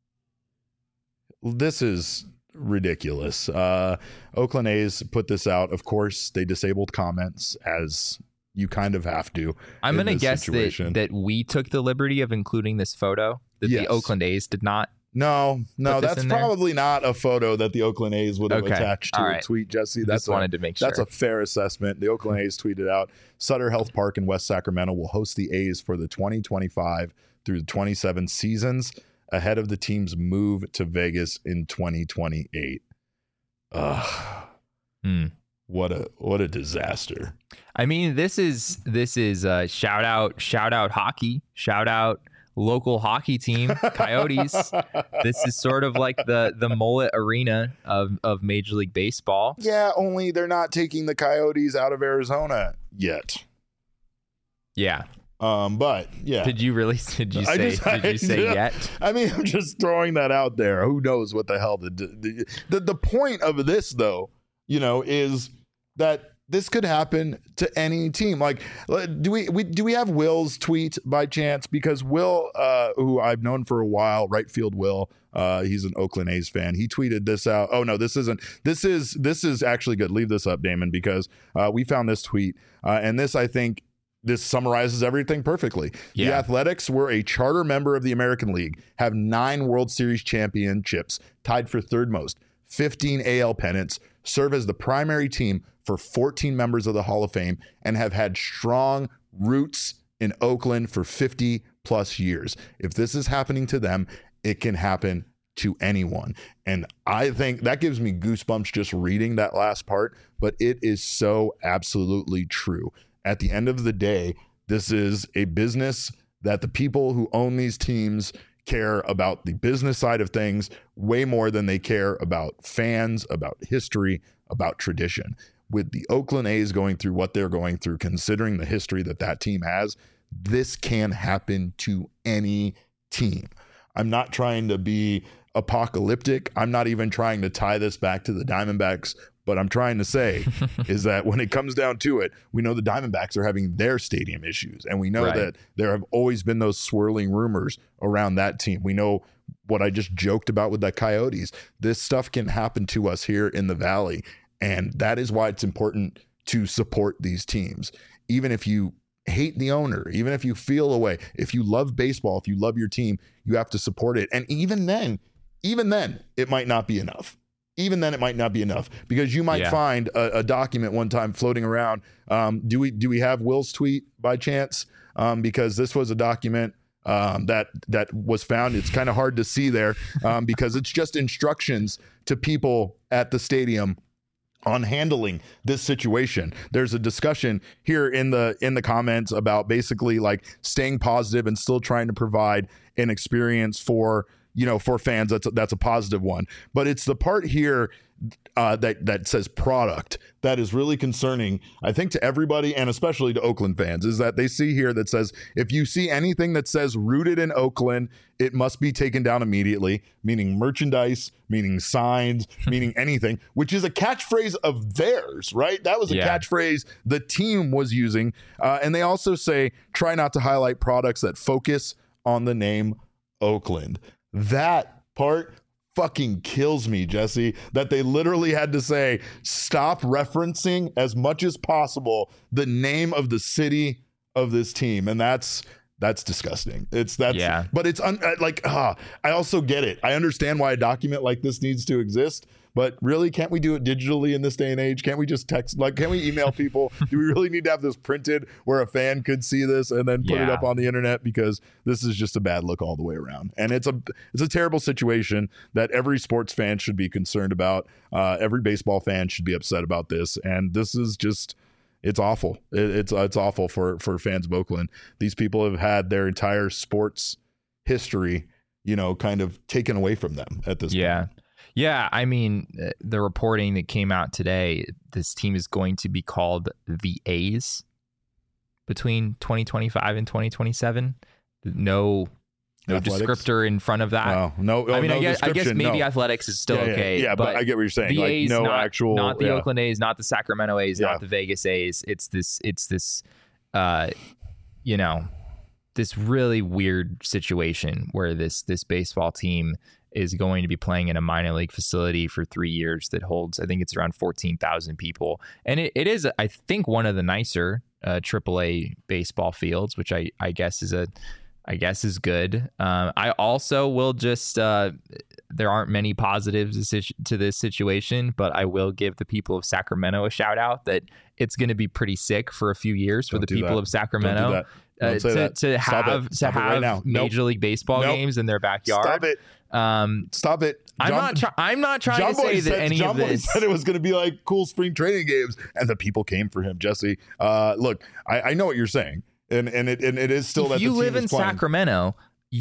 This is ridiculous. Uh, Oakland A's put this out. Of course, they disabled comments, as you kind of have to. I'm in going to this guess that, situation. that we took the liberty of including this photo, that Yes. the Oakland A's did not. No, no, Put this that's in there? probably not a photo that the Oakland A's would have Okay. attached to All a right. tweet, Jesse. That's Just a, wanted to make sure. That's a fair assessment. The Oakland A's tweeted out, Sutter Health Park in West Sacramento will host the A's for the twenty twenty-five through the twenty-seven seasons ahead of the team's move to Vegas in twenty twenty-eight. Ugh. Hmm. What a what a disaster. I mean, this is this is uh, shout out shout out hockey, shout out local hockey team, Coyotes. This is sort of like the the mullet arena of of Major League Baseball. Yeah, only they're not taking the Coyotes out of Arizona yet. Yeah. Um, but yeah. Did you really? Did you I say? just- did I you say just- yet? I mean, I'm just throwing that out there. Who knows what the hell the the the, the point of this, though, you know, is that this could happen to any team. Like, do we, we do we have Will's tweet by chance? Because Will, uh, who I've known for a while, right field Will, uh, he's an Oakland A's fan. He tweeted this out. Oh no, this isn't. This is this is actually good. Leave this up, Damon, because uh, we found this tweet, uh, and this I think. This summarizes everything perfectly. The Yeah. Athletics were a charter member of the American League, have nine World Series championships, tied for third most, fifteen A L pennants, serve as the primary team for fourteen members of the Hall of Fame, and have had strong roots in Oakland for fifty plus years. If this is happening to them, it can happen to anyone. And I think that gives me goosebumps just reading that last part, but it is so absolutely true. At the end of the day, this is a business that the people who own these teams care about the business side of things way more than they care about fans, about history, about tradition. With the Oakland A's going through what they're going through, considering the history that that team has, this can happen to any team. I'm not trying to be apocalyptic. I'm not even trying to tie this back to the Diamondbacks. But I'm trying to say is that when it comes down to it, we know the Diamondbacks are having their stadium issues. And we know Right. that there have always been those swirling rumors around that team. We know what I just joked about with the Coyotes. This stuff can happen to us here in the Valley. And that is why it's important to support these teams. Even if you hate the owner, even if you feel a way, if you love baseball, if you love your team, you have to support it. And even then, even then, it might not be enough. Even then, it might not be enough because you might Yeah. find a, a document one time floating around. Um, do we do we have Will's tweet by chance? Um, because this was a document um, that that was found. It's kind of hard to see there um, because it's just instructions to people at the stadium on handling this situation. There's a discussion here in the in the comments about basically like staying positive and still trying to provide an experience for. You know, for fans, that's a, that's a positive one. But it's the part here uh, that that says product that is really concerning, I think, to everybody and especially to Oakland fans, is that they see here that says if you see anything that says rooted in Oakland, it must be taken down immediately, meaning merchandise, meaning signs, meaning anything, which is a catchphrase of theirs, right? That was a Yeah. catchphrase the team was using. Uh, and they also say try not to highlight products that focus on the name Oakland. That part fucking kills me, Jesse, that they literally had to say, stop referencing as much as possible the name of the city of this team. And that's, that's disgusting. It's that's, Yeah. but it's un, uh, like, ah, I also get it. I understand why a document like this needs to exist, but really, can't we do it digitally in this day and age? Can't we just text, like, can we email people? Do we really need to have this printed where a fan could see this and then put it Yeah. up on the internet? Because this is just a bad look all the way around. And it's a, it's a terrible situation that every sports fan should be concerned about. Uh, every baseball fan should be upset about this. And this is just, it's awful. It, it's, it's awful for, for fans of Oakland. These people have had their entire sports history, you know, kind of taken away from them at this Yeah. point. Yeah, I mean, the reporting that came out today, this team is going to be called the A's between twenty twenty-five and twenty twenty-seven. No, no Athletics? descriptor in front of that. Wow. No, oh, I mean, no I guess I guess maybe no. athletics is still yeah, yeah, okay. Yeah, but, but I get what you're saying. The Like A's, no not, actual, not the yeah. Oakland A's, not the Sacramento A's, Yeah. not the Vegas A's. It's this, it's this, uh, you know, this really weird situation where this this baseball team is going to be playing in a minor league facility for three years that holds, I think it's around fourteen thousand people. And it, it is, I think, one of the nicer uh, triple A baseball fields, which I, I guess is a, I guess is good. Um, I also will just, uh, there aren't many positives to this situation, but I will give the people of Sacramento a shout out that it's going to be pretty sick for a few years Don't for the do people that. of Sacramento. Don't do that. Don't Uh, say to, that. to Stop have it. to Stop it right have now. Major Nope. League Baseball Nope. games in their backyard. Stop it. Um, Stop it. I'm John- not. Try- I'm not trying John to say Boy that said, any John of Boy this. said it was going to be like cool spring training games, and the people came for him. Jesse, uh, look, I, I know what you're saying, and and it and it is still if that you the team live in is playing. Sacramento,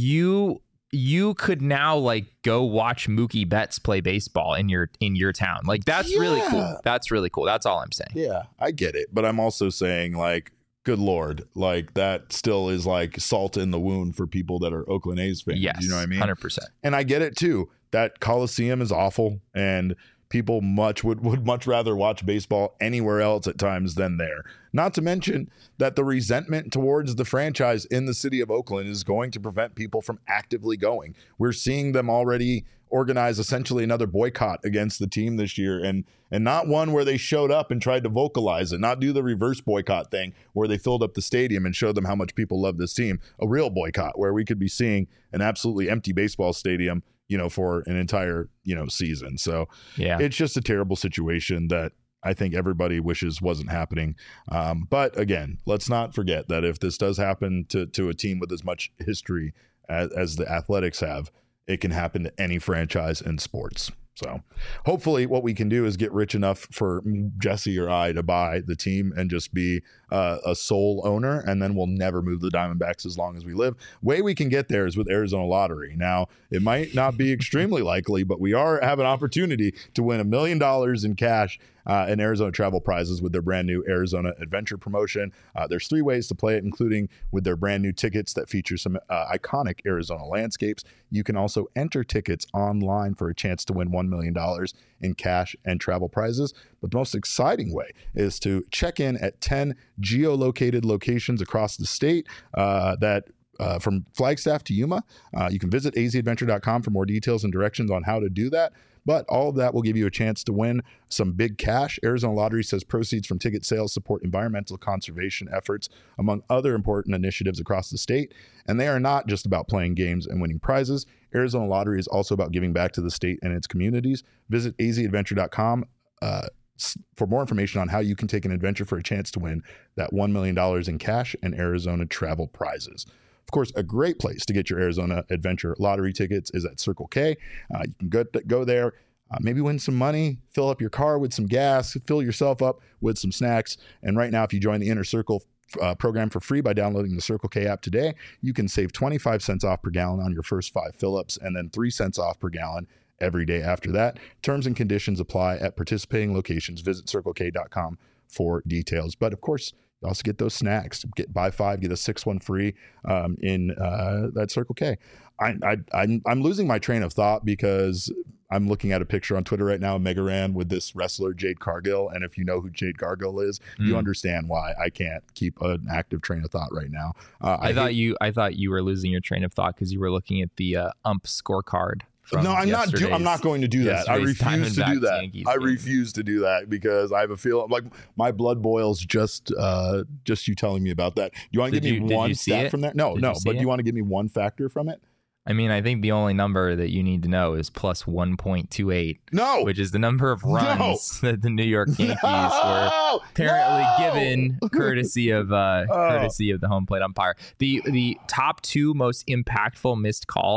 you you could now like go watch Mookie Betts play baseball in your in your town. Like that's really Yeah. cool. That's really cool. That's all I'm saying. Yeah, I get it, but I'm also saying like, good Lord, like that still is like salt in the wound for people that are Oakland A's fans. Yes, You know what I mean? one hundred percent. And I get it too. That Coliseum is awful, and people much would, would much rather watch baseball anywhere else at times than there. Not to mention that the resentment towards the franchise in the city of Oakland is going to prevent people from actively going. We're seeing them already organize essentially another boycott against the team this year, and and not one where they showed up and tried to vocalize it, not do the reverse boycott thing where they filled up the stadium and showed them how much people love this team. A real boycott where we could be seeing an absolutely empty baseball stadium, you know, for an entire, you know, season. So Yeah. it's just a terrible situation that I think everybody wishes wasn't happening. Um, but again, let's not forget that if this does happen to to a team with as much history as, as the Athletics have, it can happen to any franchise in sports. So hopefully what we can do is get rich enough for Jesse or I to buy the team and just be uh, a sole owner, and then we'll never move the Diamondbacks as long as we live. Way we can get there is with Arizona Lottery. Now, it might not be extremely likely, but we are have an opportunity to win a million dollars in cash uh, and Arizona travel prizes with their brand new Arizona Adventure promotion. Uh, there's three ways to play it, including with their brand new tickets that feature some uh, iconic Arizona landscapes. You can also enter tickets online for a chance to win one million dollars in cash and travel prizes. But the most exciting way is to check in at ten geolocated locations across the state uh, that Uh, from Flagstaff to Yuma. Uh, you can visit a z adventure dot com for more details and directions on how to do that. But all of that will give you a chance to win some big cash. Arizona Lottery says proceeds from ticket sales support environmental conservation efforts, among other important initiatives across the state. And they are not just about playing games and winning prizes. Arizona Lottery is also about giving back to the state and its communities. Visit a z adventure dot com uh, for more information on how you can take an adventure for a chance to win that one million dollars in cash and Arizona travel prizes. Of course, a great place to get your Arizona Adventure Lottery tickets is at Circle K. Uh, you can go, go there, uh, maybe win some money, fill up your car with some gas, fill yourself up with some snacks. And right now, if you join the Inner Circle uh, program for free by downloading the Circle K app today, you can save twenty-five cents off per gallon on your first five fill-ups and then three cents off per gallon every day after that. Terms and conditions apply at participating locations. Visit circle k dot com for details. But of course, you also get those snacks. Get buy five, get a six one free um, in uh, that Circle K. I, I, I'm, I'm losing my train of thought because I'm looking at a picture on Twitter right now of Mega Ran with this wrestler, Jade Cargill. And if you know who Jade Cargill is, mm. you understand why I can't keep an active train of thought right now. Uh, I, I thought hate- you I thought you were losing your train of thought because you were looking at the uh, ump scorecard. No, I'm not. Do, I'm not going to do that. I refuse to do that. Yankees I game. refuse to do that because I have a feel like my blood boils just uh, just you telling me about that. Do you want to Did give you- me did one you see stat it? from there? No, Did no. you see But do it? you want to give me one factor from it? I mean, I think the only number that you need to know is plus one point two eight, No. which is the number of runs that the New York Yankees were No! apparently No! given courtesy of uh, Oh. courtesy of the home plate umpire. The the top two most impactful missed calls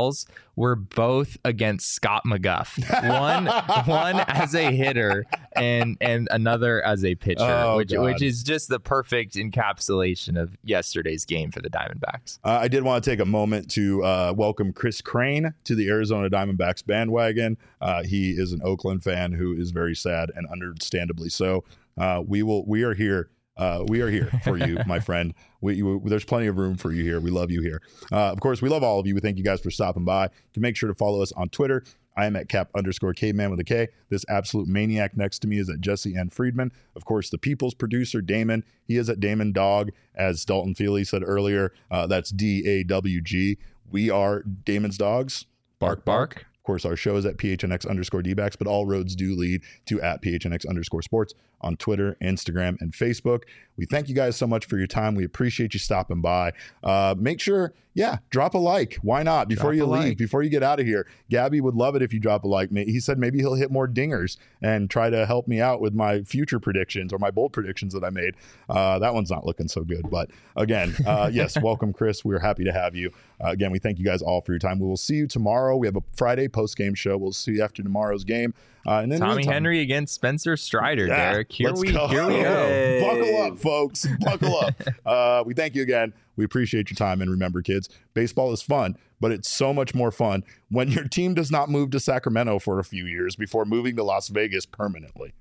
were both against Scott McGuff. One one as a hitter and and another as a pitcher, Oh, which God. which is just the perfect encapsulation of yesterday's game for the Diamondbacks. Uh, I did want to take a moment to uh, welcome Chris Crane to the Arizona Diamondbacks bandwagon. Uh, he is an Oakland fan who is very sad, and understandably so. Uh, we will. We are here. Uh, we are here for you, my friend. We, you, there's plenty of room for you here. We love you here. Uh, of course, we love all of you. We thank you guys for stopping by. You can make sure to follow us on Twitter. I am at cap underscore caveman with a K. This absolute maniac next to me is at Jesse N. Friedman. Of course, the people's producer, Damon. He is at Damon Dog, as Dalton Feely said earlier. Uh, that's D A W G. We are Damon's Dogs. Bark, bark. Of course, our show is at P H N X underscore D-backs, but all roads do lead to at P H N X underscore sports on Twitter, Instagram, and Facebook. We thank you guys so much for your time. We appreciate you stopping by. Uh, make sure, yeah, drop a like. Why not? Before Drop you a leave, like. before you get out of here, Gabby would love it if you drop a like. He said maybe he'll hit more dingers and try to help me out with my future predictions or my bold predictions that I made. Uh, that one's not looking so good. But again, uh, yes, welcome, Chris. We're happy to have you. Uh, again, we thank you guys all for your time. We will see you tomorrow. We have a Friday post-game show. We'll see you after tomorrow's game. Uh, and then Tommy meantime- Henry against Spencer Strider, Yeah, Derek. Here let's we go. here we go. Hey. Buckle up, folks. Buckle up. Uh, we thank you again. We appreciate your time. And remember, kids, baseball is fun, but it's so much more fun when your team does not move to Sacramento for a few years before moving to Las Vegas permanently.